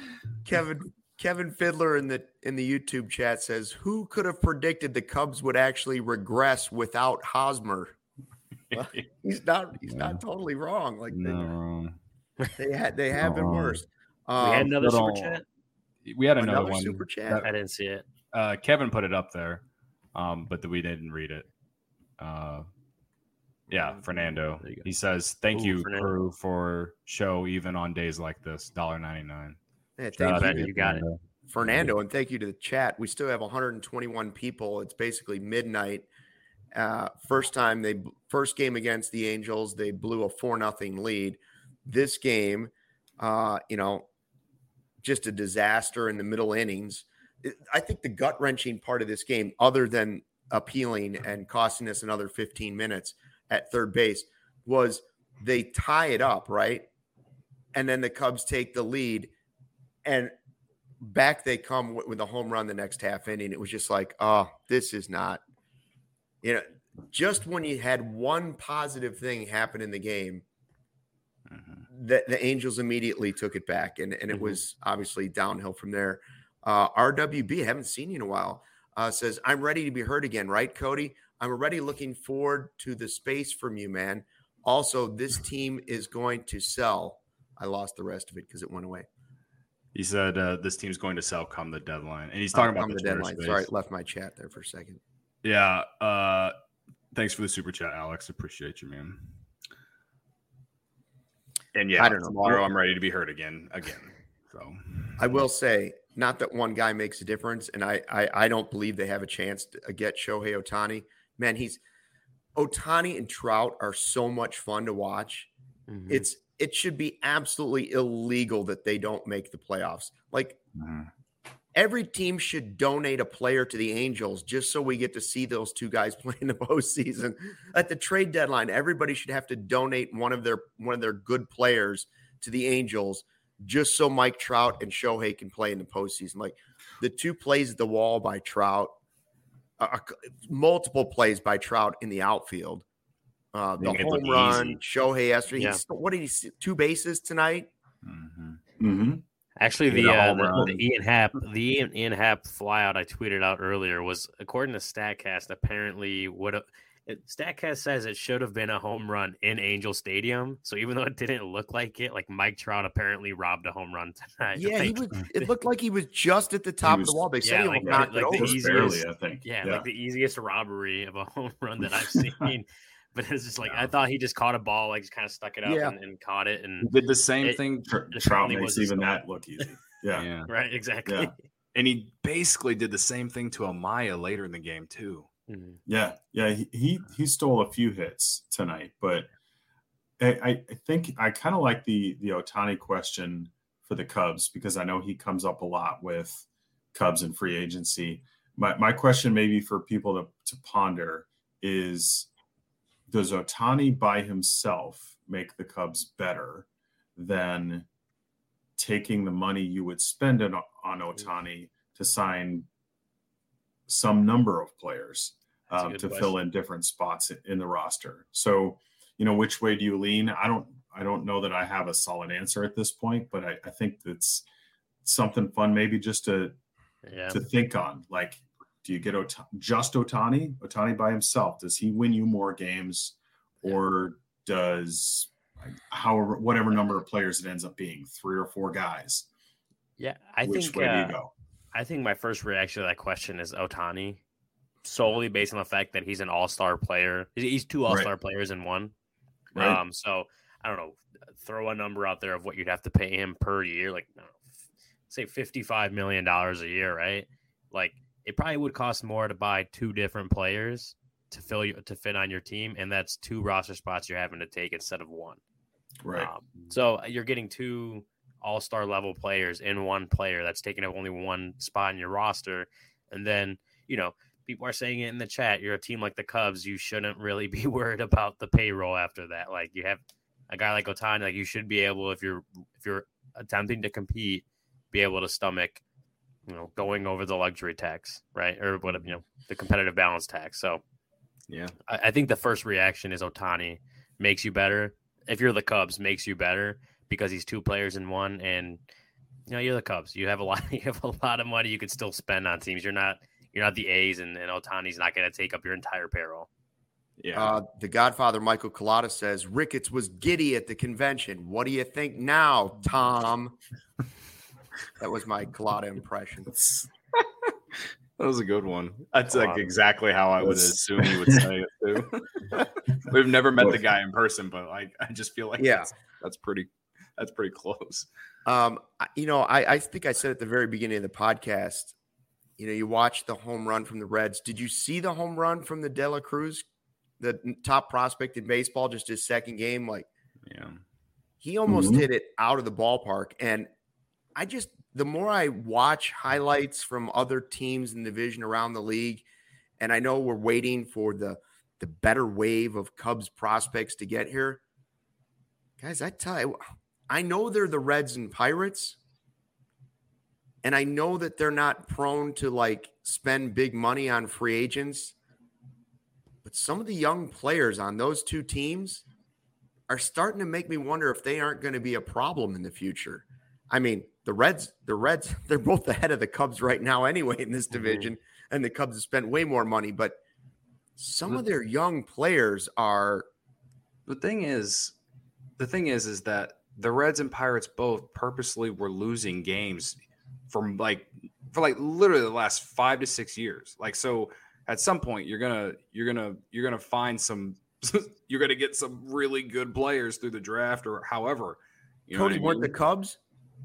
Kevin Kevin Fiddler in the in the YouTube chat says, "Who could have predicted the Cubs would actually regress without Hosmer?" Well, he's not he's not totally wrong. Like No. they, they had they have been Uh-uh. worse. We had Um, another super little- chat. We had another, another one. super chat. that- I didn't see it. uh, Kevin put it up there, um, but we didn't read it. Uh, yeah, Fernando. There you go. He says, "Thank Ooh, you, Fernando. crew, for show even on days like this. one ninety-nine." Yeah, Shout thank out you, to You got it. Fernando, and thank you to the chat. We still have one hundred twenty-one people. It's basically midnight. Uh, first time they first game against the Angels, they blew a four nothing lead. This game, uh, you know, just a disaster in the middle innings. It- I think the gut wrenching part of this game, other than appealing and costing us another fifteen minutes at third base, was they tie it up, right? And then the Cubs take the lead, and back they come with, with a home run the next half inning. It was just like, oh, this is not, you know, just when you had one positive thing happen in the game, Mhm. the, the Angels immediately took it back. And, and it Mhm. was obviously downhill from there. Uh, R W B, I haven't seen you in a while, uh, says, I'm ready to be heard again, right, Cody? I'm already looking forward to the space from you, man. Also, this team is going to sell. I lost the rest of it because it went away. He said uh, this team's going to sell come the deadline. And he's talking uh, about the, the deadline. Space. Sorry, left my chat there for a second. Yeah. Uh, thanks for the super chat, Alex. Appreciate you, man. And yeah, I don't know. Tomorrow I'm ready to be heard again. Again. So I will say, not that one guy makes a difference, and I I, I don't believe they have a chance to get Shohei Ohtani. Man, he's Ohtani and Trout are so much fun to watch. Mm-hmm. It's it should be absolutely illegal that they don't make the playoffs. Like mm-hmm. every team should donate a player to the Angels just so we get to see those two guys play in the postseason. At the trade deadline, everybody should have to donate one of their one of their good players to the Angels just so Mike Trout and Shohei can play in the postseason. Like the two plays at the wall by Trout, uh, multiple plays by Trout in the outfield. Uh, the home run, easy. Shohei yesterday. Yeah. What did he see? Two bases tonight? Mm-hmm. Mm-hmm. Actually, the, uh, the, the Ian Happ, the Ian, Ian Happ flyout I tweeted out earlier was, according to StatCast, apparently would have. StatCast says it should have been a home run in Angel Stadium. So even though it didn't look like it, like Mike Trout apparently robbed a home run tonight. Yeah, like, he was. It looked like he was just at the top was, of the wall. They said yeah, he like, knocked like it the over. easiest, barely, I think. Yeah, yeah, like the easiest robbery of a home run that I've seen. But it's just like, yeah. I thought he just caught a ball, like just kind of stuck it up yeah. and, and caught it. And he did the same it, thing. It Trout makes even that look easy. Yeah. yeah. Right. Exactly. Yeah. And he basically did the same thing to Amaya later in the game too. Mm-hmm. Yeah. Yeah. He, he, he stole a few hits tonight, but I, I think I kind of like the, the Ohtani question for the Cubs because I know he comes up a lot with Cubs and free agency. My, my question maybe for people to, to ponder is, does Ohtani by himself make the Cubs better than taking the money you would spend on, on Ohtani to sign some number of players um, to question. fill in different spots in the roster? So, you know, which way do you lean? I don't, I don't know that I have a solid answer at this point, but I, I think it's something fun, maybe just to, yeah. to think on. Like, do you get Ot- just Ohtani? Ohtani by himself? Does he win you more games, or does however whatever number of players it ends up being, three or four guys? Yeah, I Which think. way Uh, do you go? I think my first reaction to that question is Ohtani, solely based on the fact that he's an all-star player. He's two all-star right. players in one. Right. Um, so I don't know. Throw a number out there of what you'd have to pay him per year, like I don't know, say fifty-five million dollars a year, right? Like. It probably would cost more to buy two different players to fill you to fit on your team, and that's two roster spots you're having to take instead of one. Right. Um, so you're getting two all-star level players in one player that's taking up only one spot in your roster, and then you know people are saying it in the chat. You're a team like the Cubs, you shouldn't really be worried about the payroll after that. Like you have a guy like Ohtani, like you should be able, if you're if you're attempting to compete, be able to stomach. You know, going over the luxury tax, right? Or what, you know, the competitive balance tax. So, yeah, I, I think the first reaction is Ohtani makes you better. If you're the Cubs, makes you better because he's two players in one. And, you know, you're the Cubs. You have a lot, you have a lot of money you could still spend on teams. You're not, you're not the A's, and, and Ohtani's not going to take up your entire payroll. Yeah. Uh, the Godfather, Michael Collada, says, Ricketts was giddy at the convention. What do you think now, Tom? That was my Collada impression. That was a good one. That's like exactly how I would assume you would say it too. We've never met the guy in person, but like I just feel like yeah, that's, that's pretty that's pretty close. Um, you know, I, I think I said at the very beginning of the podcast, you know, you watch the home run from the Reds. Did you see the home run from the De La Cruz, the top prospect in baseball, just his second game? Like, yeah, he almost mm-hmm. hit it out of the ballpark. And I just, the more I watch highlights from other teams in the division around the league, and I know we're waiting for the the better wave of Cubs prospects to get here. Guys, I tell you, I know they're the Reds and Pirates, and I know that they're not prone to like spend big money on free agents, but some of the young players on those two teams are starting to make me wonder if they aren't going to be a problem in the future. I mean, the Reds, the Reds, they're both ahead of the Cubs right now anyway in this division, mm-hmm. and the Cubs have spent way more money. But some of their young players are. The thing is, the thing is, is that the Reds and Pirates both purposely were losing games from like for like literally the last five to six years. Like, so at some point you're gonna you're gonna you're gonna find some you're gonna get some really good players through the draft or however. You know Cody, weren't I mean? the Cubs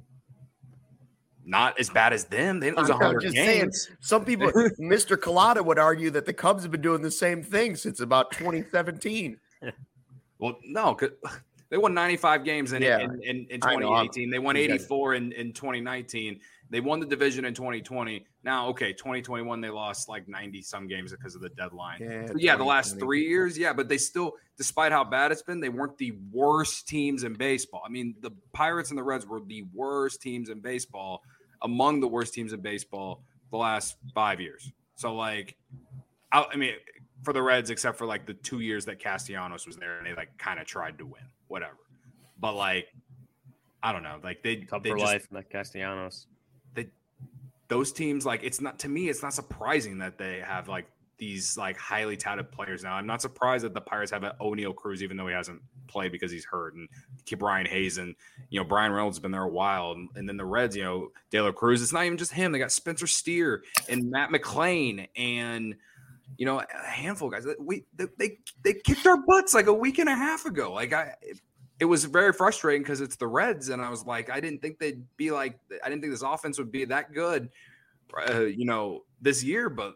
not as bad as them? They didn't lose one hundred games. Saying, some people, Mister Collada would argue that the Cubs have been doing the same thing since about twenty seventeen. Well, no, they won ninety-five games in, yeah, in, in, in twenty eighteen. They won eighty-four in, in twenty nineteen. They won the division in twenty twenty. Now, okay, twenty twenty-one, they lost like ninety-some games because of the deadline. Yeah, yeah the last three years, yeah, but they still, despite how bad it's been, they weren't the worst teams in baseball. I mean, the Pirates and the Reds were the worst teams in baseball, among the worst teams in baseball the last five years. So, like, I, I mean – for the Reds, except for like the two years that Castellanos was there and they like kind of tried to win, whatever. But like, I don't know, like they Cup they for just, life, like Castellanos. They those teams like it's not to me, it's not surprising that they have like these like highly touted players now. I'm not surprised that the Pirates have an O'Neal Cruz, even though he hasn't played because he's hurt, and keep Brian Hayes and you know Brian Reynolds has been there a while, and, and then the Reds, you know, De La Cruz. It's not even just him; they got Spencer Steer and Matt McClain and. You know, a handful of guys. We they they kicked our butts like a week and a half ago. Like I, it, it was very frustrating because it's the Reds, and I was like, I didn't think they'd be like, I didn't think this offense would be that good, uh, you know, this year. But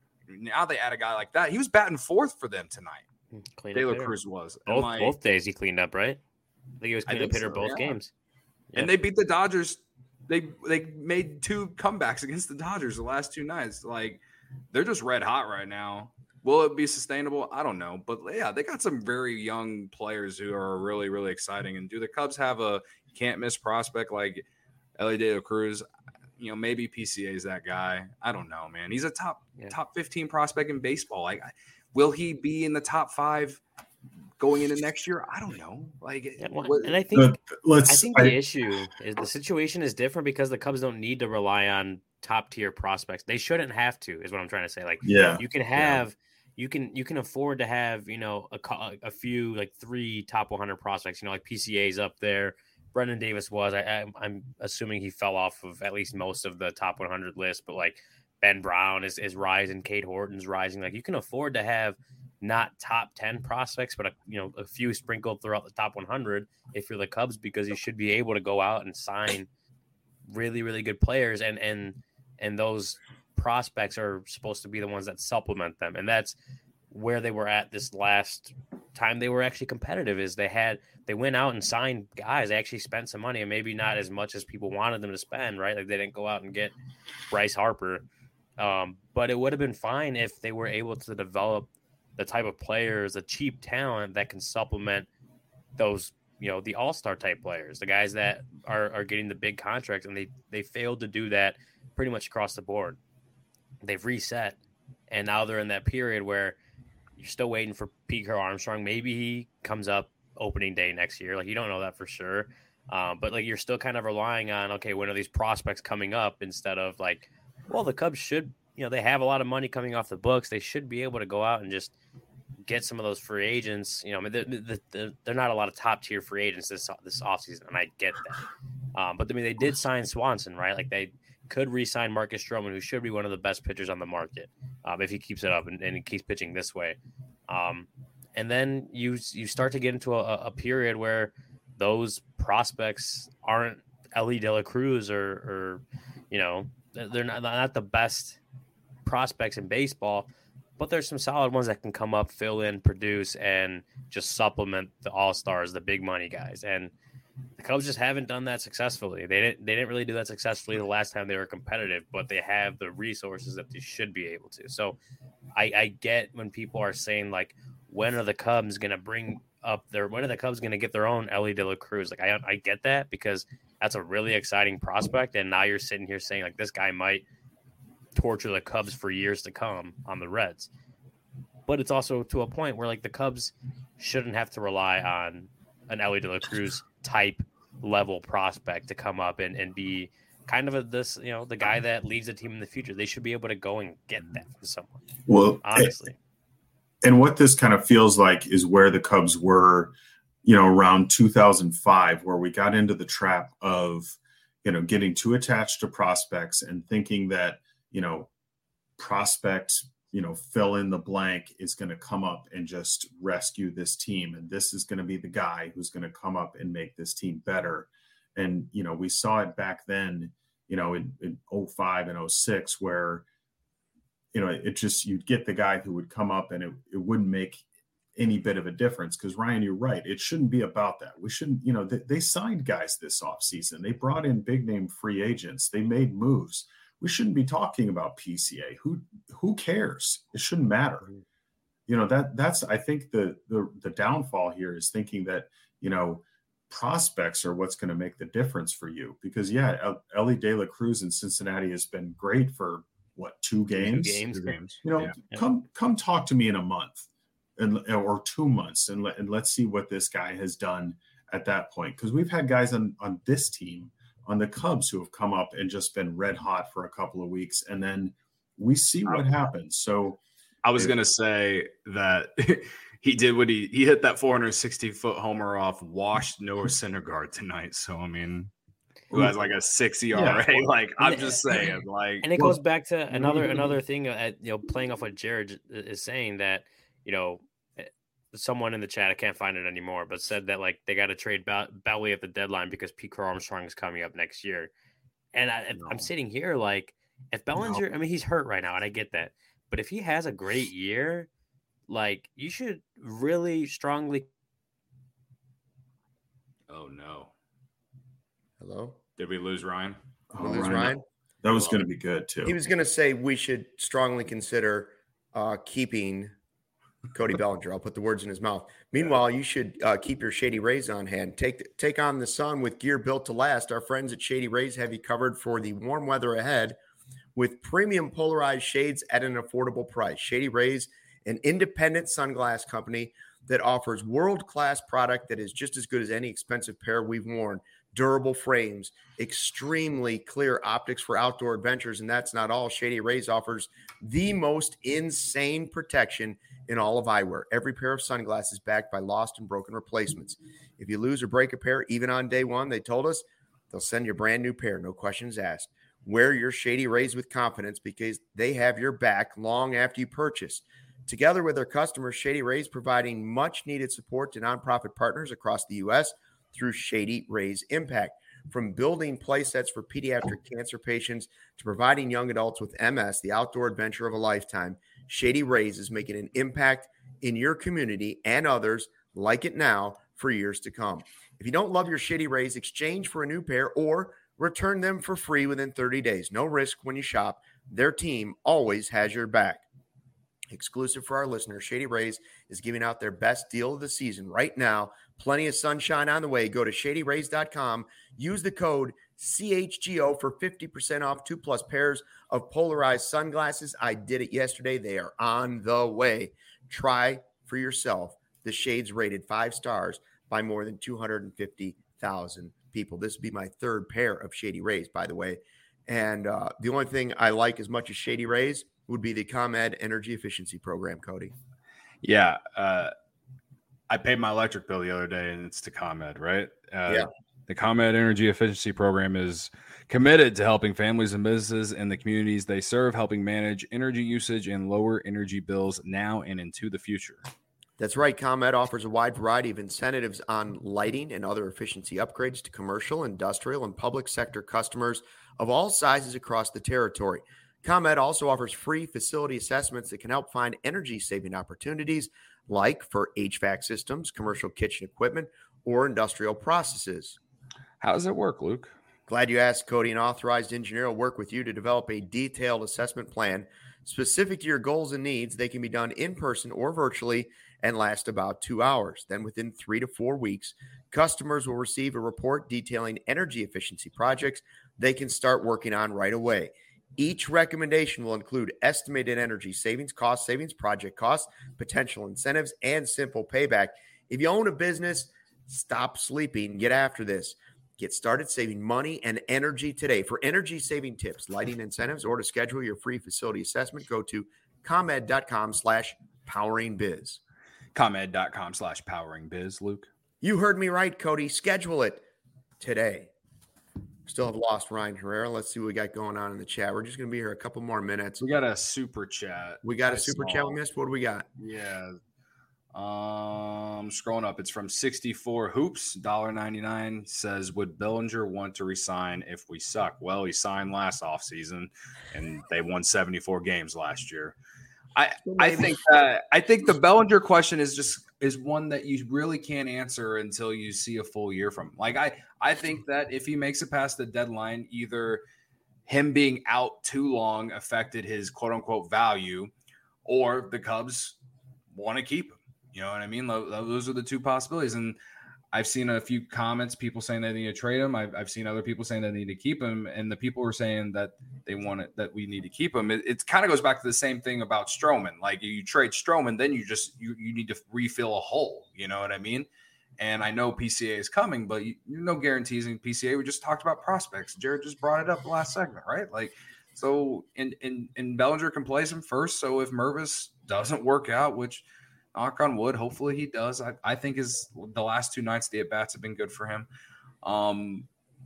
now they add a guy like that. He was batting fourth for them tonight. De La Cruz was both I, both days he cleaned up, right? I think he was cleaning up hitter so, both yeah. games, yeah. And they beat the Dodgers. They they made two comebacks against the Dodgers the last two nights. Like. They're just red hot right now. Will it be sustainable? I don't know. But, yeah, they got some very young players who are really, really exciting. And do the Cubs have a can't-miss prospect like Elly De La Cruz? You know, maybe P C A is that guy. I don't know, man. He's a top yeah. top fifteen prospect in baseball. Like, will he be in the top five going into next year? I don't know. Like, yeah, well, and I think, uh, let's, I think the I, issue is the situation is different because the Cubs don't need to rely on top tier prospects. They shouldn't have to, is what I'm trying to say. Like, yeah, you can have, yeah. you can, you can afford to have, you know, a, a few, like three top one hundred prospects, you know, like P C A's up there. Brendan Davis was, I, I, I'm assuming he fell off of at least most of the top one hundred list, but like Ben Brown is, is rising. Cade Horton's rising. Like, you can afford to have not top ten prospects, but a, you know, a few sprinkled throughout the top one hundred if you're the Cubs, because you should be able to go out and sign really, really good players. And, and, and those prospects are supposed to be the ones that supplement them. And that's where they were at this last time they were actually competitive, is they had, they went out and signed guys. They actually spent some money, and maybe not as much as people wanted them to spend, right? Like, they didn't go out and get Bryce Harper. Um, but it would have been fine if they were able to develop the type of players, the cheap talent that can supplement those, you know, the all-star type players, the guys that are, are getting the big contracts. And they, they failed to do that pretty much across the board. They've reset, and now they're in that period where you're still waiting for Pete Armstrong. Maybe he comes up opening day next year. Like, you don't know that for sure. Um, but like, you're still kind of relying on, okay, when are these prospects coming up, instead of like, well, the Cubs should, you know, they have a lot of money coming off the books. They should be able to go out and just get some of those free agents. You know, I mean, they're, they're, they're not a lot of top tier free agents this this offseason, and I get that. Um, but I mean, they did sign Swanson, right? Like, they could re-sign Marcus Stroman, who should be one of the best pitchers on the market um, if he keeps it up and, and he keeps pitching this way. Um, and then you you start to get into a, a period where those prospects aren't Elly De La Cruz or, or you know, they're not, not the best prospects in baseball, but there's some solid ones that can come up, fill in, produce, and just supplement the all-stars, the big money guys. And the Cubs just haven't done that successfully. They didn't they didn't really do that successfully the last time they were competitive, but they have the resources that they should be able to. So I, I get when people are saying, like, when are the Cubs going to bring up their, when are the Cubs going to get their own Elly De La Cruz? Like, I I get that, because that's a really exciting prospect. And now you're sitting here saying, like, this guy might torture the Cubs for years to come on the Reds. But it's also to a point where, like, the Cubs shouldn't have to rely on an Elly De La Cruz type level prospect to come up and, and be kind of a, this, you know, the guy that leads the team in the future. They should be able to go and get that from someone. Well, honestly. And what this kind of feels like is where the Cubs were, you know, around two thousand five, where we got into the trap of, you know, getting too attached to prospects and thinking that, you know, prospect, you know, fill in the blank is going to come up and just rescue this team. And this is going to be the guy who's going to come up and make this team better. And, you know, we saw it back then, you know, in, in oh five and oh six, where, you know, it just, you'd get the guy who would come up and it, it wouldn't make any bit of a difference. Because Ryan, you're right. It shouldn't be about that. We shouldn't, you know, they, they signed guys this offseason. They brought in big name free agents. They made moves. We shouldn't be talking about P C A. Who, who cares? It shouldn't matter. You know, that that's, I think the, the, the downfall here is thinking that, you know, prospects are what's going to make the difference for you. Because yeah, Elly De La Cruz in Cincinnati has been great for what, two games? Two games. Two games. You know, Yeah. come come talk to me in a month, and or two months, and let and let's see what this guy has done at that point. Because we've had guys on on this team, on the Cubs, who have come up and just been red hot for a couple of weeks, and then we see what happens. So I was going to say that he did what he he hit that four hundred sixty foot homer off washed Noah Syndergaard tonight. So I mean, who has like a six E R A? Yeah. Like I'm just saying, like, And it Well, goes back to another another thing, at, you know, playing off what Jared is saying, that, you know, someone in the chat, I can't find it anymore, but said that like they got to trade ba- Belly at the deadline because Pete Armstrong is coming up next year. And I, No. I'm sitting here like, if Bellinger, I mean, he's hurt right now, and I get that, but if he has a great year, like, you should really strongly. oh no, Hello? did we lose Ryan? oh, Will lose Ryan, Ryan? that was going to be good too. He was going to say we should strongly consider uh, keeping Cody Bellinger. I'll put the words in his mouth. Meanwhile, you should uh, keep your Shady Rays on hand. Take take on the sun with gear built to last. Our friends at Shady Rays have you covered for the warm weather ahead with premium polarized shades at an affordable price. Shady Rays, an independent sunglass company that offers world-class product that is just as good as any expensive pair we've worn. Durable frames, extremely clear optics for outdoor adventures, and that's not all. Shady Rays offers the most insane protection in all of eyewear. Every pair of sunglasses backed by lost and broken replacements. If you lose or break a pair, even on day one, they told us they'll send you a brand new pair, no questions asked. Wear your Shady Rays with confidence because they have your back long after you purchase. Together with their customers, Shady Rays providing much needed support to nonprofit partners across the U S through Shady Rays Impact. From building play sets for pediatric cancer patients to providing young adults with M S the outdoor adventure of a lifetime, Shady Rays is making an impact in your community and others like it now for years to come. If you don't love your Shady Rays, exchange for a new pair or return them for free within thirty days. No risk when you shop. Their team always has your back. Exclusive for our listeners, Shady Rays is giving out their best deal of the season right now. Plenty of sunshine on the way. Go to shady rays dot com. Use the code C H G O for fifty percent off two plus pairs of polarized sunglasses. I did it yesterday. They are on the way. Try for yourself the shades rated five stars by more than two hundred fifty thousand people. This would be my third pair of Shady Rays, by the way. And uh, the only thing I like as much as Shady Rays would be the ComEd Energy Efficiency Program, Cody. Yeah, uh, I paid my electric bill the other day, and it's to ComEd, right? Uh, Yeah. The ComEd Energy Efficiency Program is committed to helping families and businesses in the communities they serve, helping manage energy usage and lower energy bills now and into the future. That's right. ComEd offers a wide variety of incentives on lighting and other efficiency upgrades to commercial, industrial, and public sector customers of all sizes across the territory. ComEd also offers free facility assessments that can help find energy-saving opportunities like for H V A C systems, commercial kitchen equipment, or industrial processes. How does it work, Luke? Glad you asked, Cody. An authorized engineer will work with you to develop a detailed assessment plan specific to your goals and needs. They can be done in person or virtually and last about two hours. Then within three to four weeks, customers will receive a report detailing energy efficiency projects they can start working on right away. Each recommendation will include estimated energy savings, cost savings, project costs, potential incentives, and simple payback. If you own a business, stop sleeping. Get after this. Get started saving money and energy today. For energy-saving tips, lighting incentives, or to schedule your free facility assessment, go to ComEd.com slash poweringbiz. ComEd.com slash poweringbiz, Luke. You heard me right, Cody. Schedule it today. Still have lost Ryan Herrera. Let's see what we got going on in the chat. We're just going to be here a couple more minutes. We got a super chat. We got a I super saw. chat we missed. What do we got? Yeah. Um, scrolling up, it's from sixty-four Hoops, one dollar ninety-nine, says, would Bellinger want to resign if we suck? Well, he signed last offseason, and they won seventy-four games last year. I, I think that I think the Bellinger question is just is one that you really can't answer until you see a full year from him. Like I, I think that if he makes it past the deadline, either him being out too long affected his quote unquote value, or the Cubs want to keep him. You know what I mean? Those are the two possibilities. And I've seen a few comments, people saying they need to trade him. I've, I've seen other people saying they need to keep him. And the people were saying that they want it, that we need to keep him. It, it kind of goes back to the same thing about Stroman. Like you trade Stroman, then you just, you, you need to refill a hole. You know what I mean? And I know P C A is coming, but you, you no guarantees in P C A. We just talked about prospects. Jared just brought it up the last segment, right? Like, so, and, and, and Bellinger can place him first. So if Mervis doesn't work out, which, knock on wood, hopefully he does. I, I think his the last two nights the at-bats have been good for him. Um,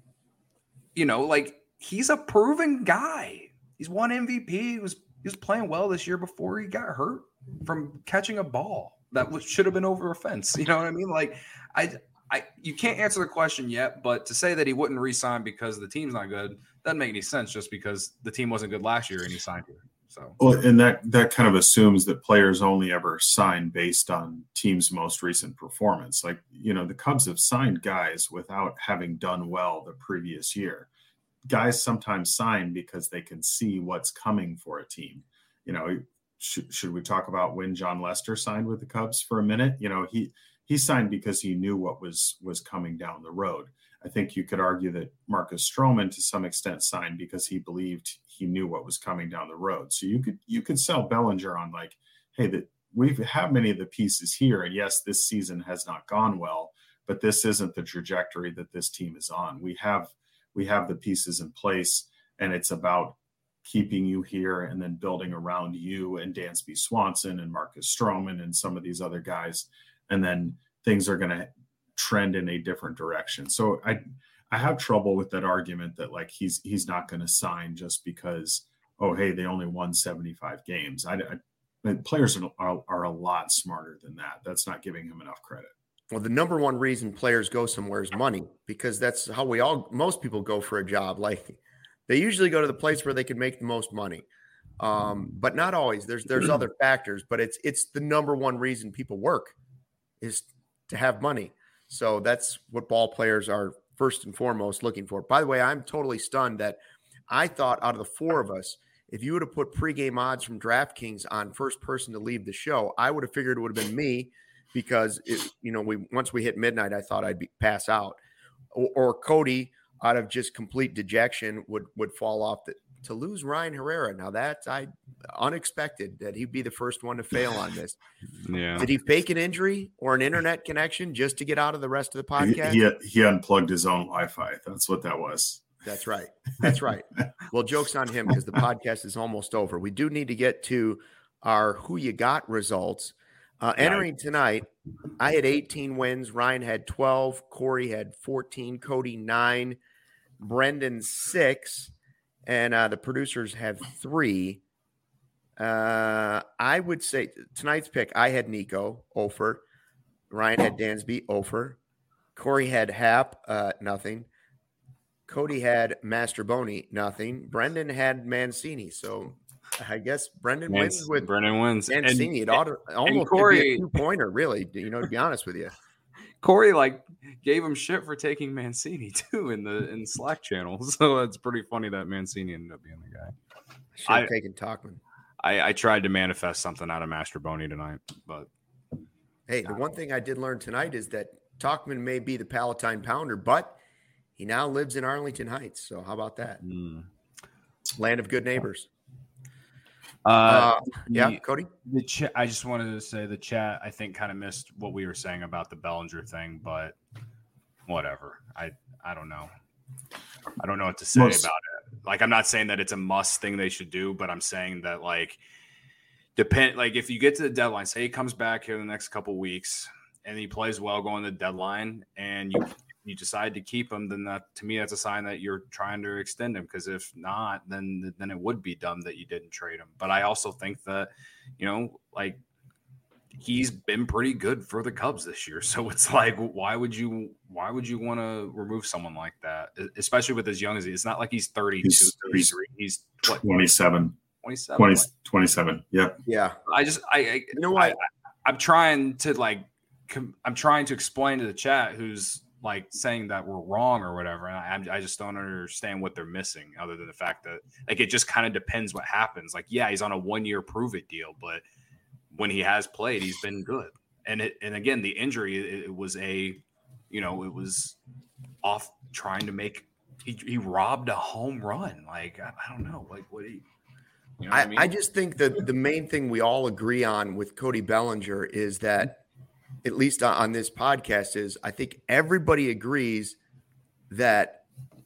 you know, like he's a proven guy. He's won M V P. He was he was playing well this year before he got hurt from catching a ball that was, should have been over a fence. You know what I mean? Like I I you can't answer the question yet, but to say that he wouldn't re-sign because the team's not good doesn't make any sense just because the team wasn't good last year and he signed here. So, well, and that that kind of assumes that players only ever sign based on team's most recent performance. Like, you know, the Cubs have signed guys without having done well the previous year. Guys sometimes sign because they can see what's coming for a team. You know, should, should we talk about when John Lester signed with the Cubs for a minute? You know, he he signed because he knew what was was coming down the road. I think you could argue that Marcus Stroman to some extent signed because he believed he knew what was coming down the road. So you could you could sell Bellinger on like, hey, that we have many of the pieces here. And yes, this season has not gone well, but this isn't the trajectory that this team is on. We have we have the pieces in place, and it's about keeping you here and then building around you and Dansby Swanson and Marcus Stroman and some of these other guys. And then things are going to trend in a different direction. So I I have trouble with that argument that like he's he's not going to sign just because, oh, hey, they only won seventy-five games. I, I players are, are are a lot smarter than that. That's not giving him enough credit. Well, the number one reason players go somewhere is money, because that's how we all most people go for a job. Like they usually go to the place where they can make the most money. Um, but not always. There's there's other factors, but it's it's the number one reason people work is to have money. So that's what ball players are first and foremost looking for. By the way, I'm totally stunned that I thought out of the four of us, if you would have put pregame odds from DraftKings on first person to leave the show, I would have figured it would have been me because, it, you know, we once we hit midnight, I thought I'd be, pass out. Or, or Cody, out of just complete dejection, would would fall off the, to lose Ryan Herrera. Now that's I unexpected that he'd be the first one to fail on this. Yeah. Did he fake an injury or an internet connection just to get out of the rest of the podcast? He, he, he unplugged his own Wi-Fi. That's what that was. That's right. That's right. Well, joke's on him because the podcast is almost over. We do need to get to our Who You Got results. Uh, entering tonight, I had eighteen wins. Ryan had twelve. Corey had fourteen. Cody, nine. Brendan, six. And uh, the producers have three. Uh, I would say tonight's pick, I had Nico, Ofer. Ryan had Dansby, Ofer. Corey had Hap, uh, nothing. Cody had Masterboni, nothing. Brendan had Mancini. So I guess Brendan Man- wins with Brendan wins. Mancini. And, it ought to, almost Corey- could be a two-pointer, really, you know, to be honest with you. Corey like gave him shit for taking Mancini too in the in Slack channel. so it's pretty funny that Mancini ended up being the guy. Should have I- taken Talkman. I, I tried to manifest something out of Masterboni tonight, but Hey, the one thing I did learn tonight is that Talkman may be the Palatine Pounder, but he now lives in Arlington Heights. So how about that? mm. Land of good neighbors. uh, Uh, yeah, the- Cody? The chat. I just wanted to say the chat, I think, kind of missed what we were saying about the Bellinger thing, but whatever. I I don't know. I don't know what to say Most- about it. Like, I'm not saying that it's a must thing they should do, but I'm saying that, like, depend like if you get to the deadline, say he comes back here in the next couple weeks and he plays well going to the deadline, and you you decide to keep him, then that, to me, that's a sign that you're trying to extend him. Because if not, then then it would be dumb that you didn't trade him. But I also think that, you know, like, he's been pretty good for the Cubs this year. So it's like, why would you why would you want to remove someone like that, especially with as young as he is? It's not like he's thirty-two, He's- thirty-three. He's what, twenty-seven. twenty-seven? twenty, Like, twenty-seven. Yep. Yeah. I just I, I You know what? I, I I'm trying to like com- I'm trying to explain to the chat who's like saying that we're wrong or whatever, and I I'm- I just don't understand what they're missing, other than the fact that, like, it just kind of depends what happens. Like, yeah, he's on a one year prove it deal, but when he has played, he's been good. And it and again, the injury, it, it was a, you know, it was off trying to make he he robbed a home run. Like, I, I don't know, like what he. You know what I, I mean? I just think that the main thing we all agree on with Cody Bellinger is that, at least on this podcast, is I think everybody agrees that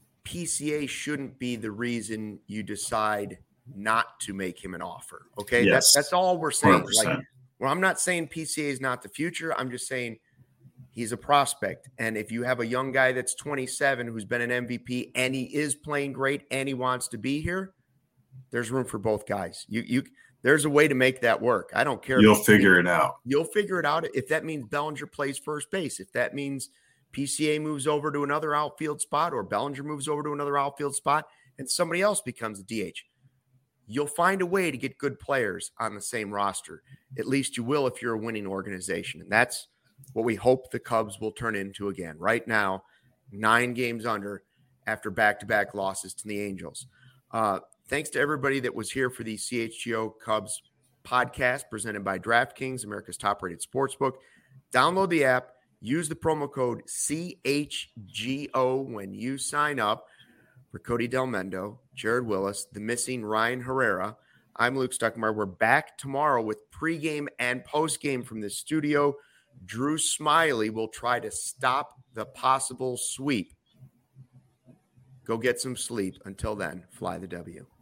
P C A shouldn't be the reason you decide not to make him an offer. Okay. Yes. That's, that's all we're saying. one hundred percent. Like, well, I'm not saying P C A is not the future. I'm just saying he's a prospect. And if you have a young guy that's twenty-seven who's been an M V P and he is playing great and he wants to be here, there's room for both guys. You, you, there's a way to make that work. I don't care. You'll if figure it out. You'll figure it out. If that means Bellinger plays first base, if that means P C A moves over to another outfield spot, or Bellinger moves over to another outfield spot and somebody else becomes a D H, you'll find a way to get good players on the same roster. At least you will if you're a winning organization. And that's what we hope the Cubs will turn into again. Right now, nine games under after back-to-back losses to the Angels. Uh, thanks to everybody that was here for the C H G O Cubs podcast presented by DraftKings, America's top-rated sportsbook. Download the app. Use the promo code C H G O when you sign up. For Cody Delmendo, Jared Willis, the missing Ryan Herrera, I'm Luke Stuckmeyer. We're back tomorrow with pregame and postgame from the studio. Drew Smiley will try to stop the possible sweep. Go get some sleep. Until then, fly the W.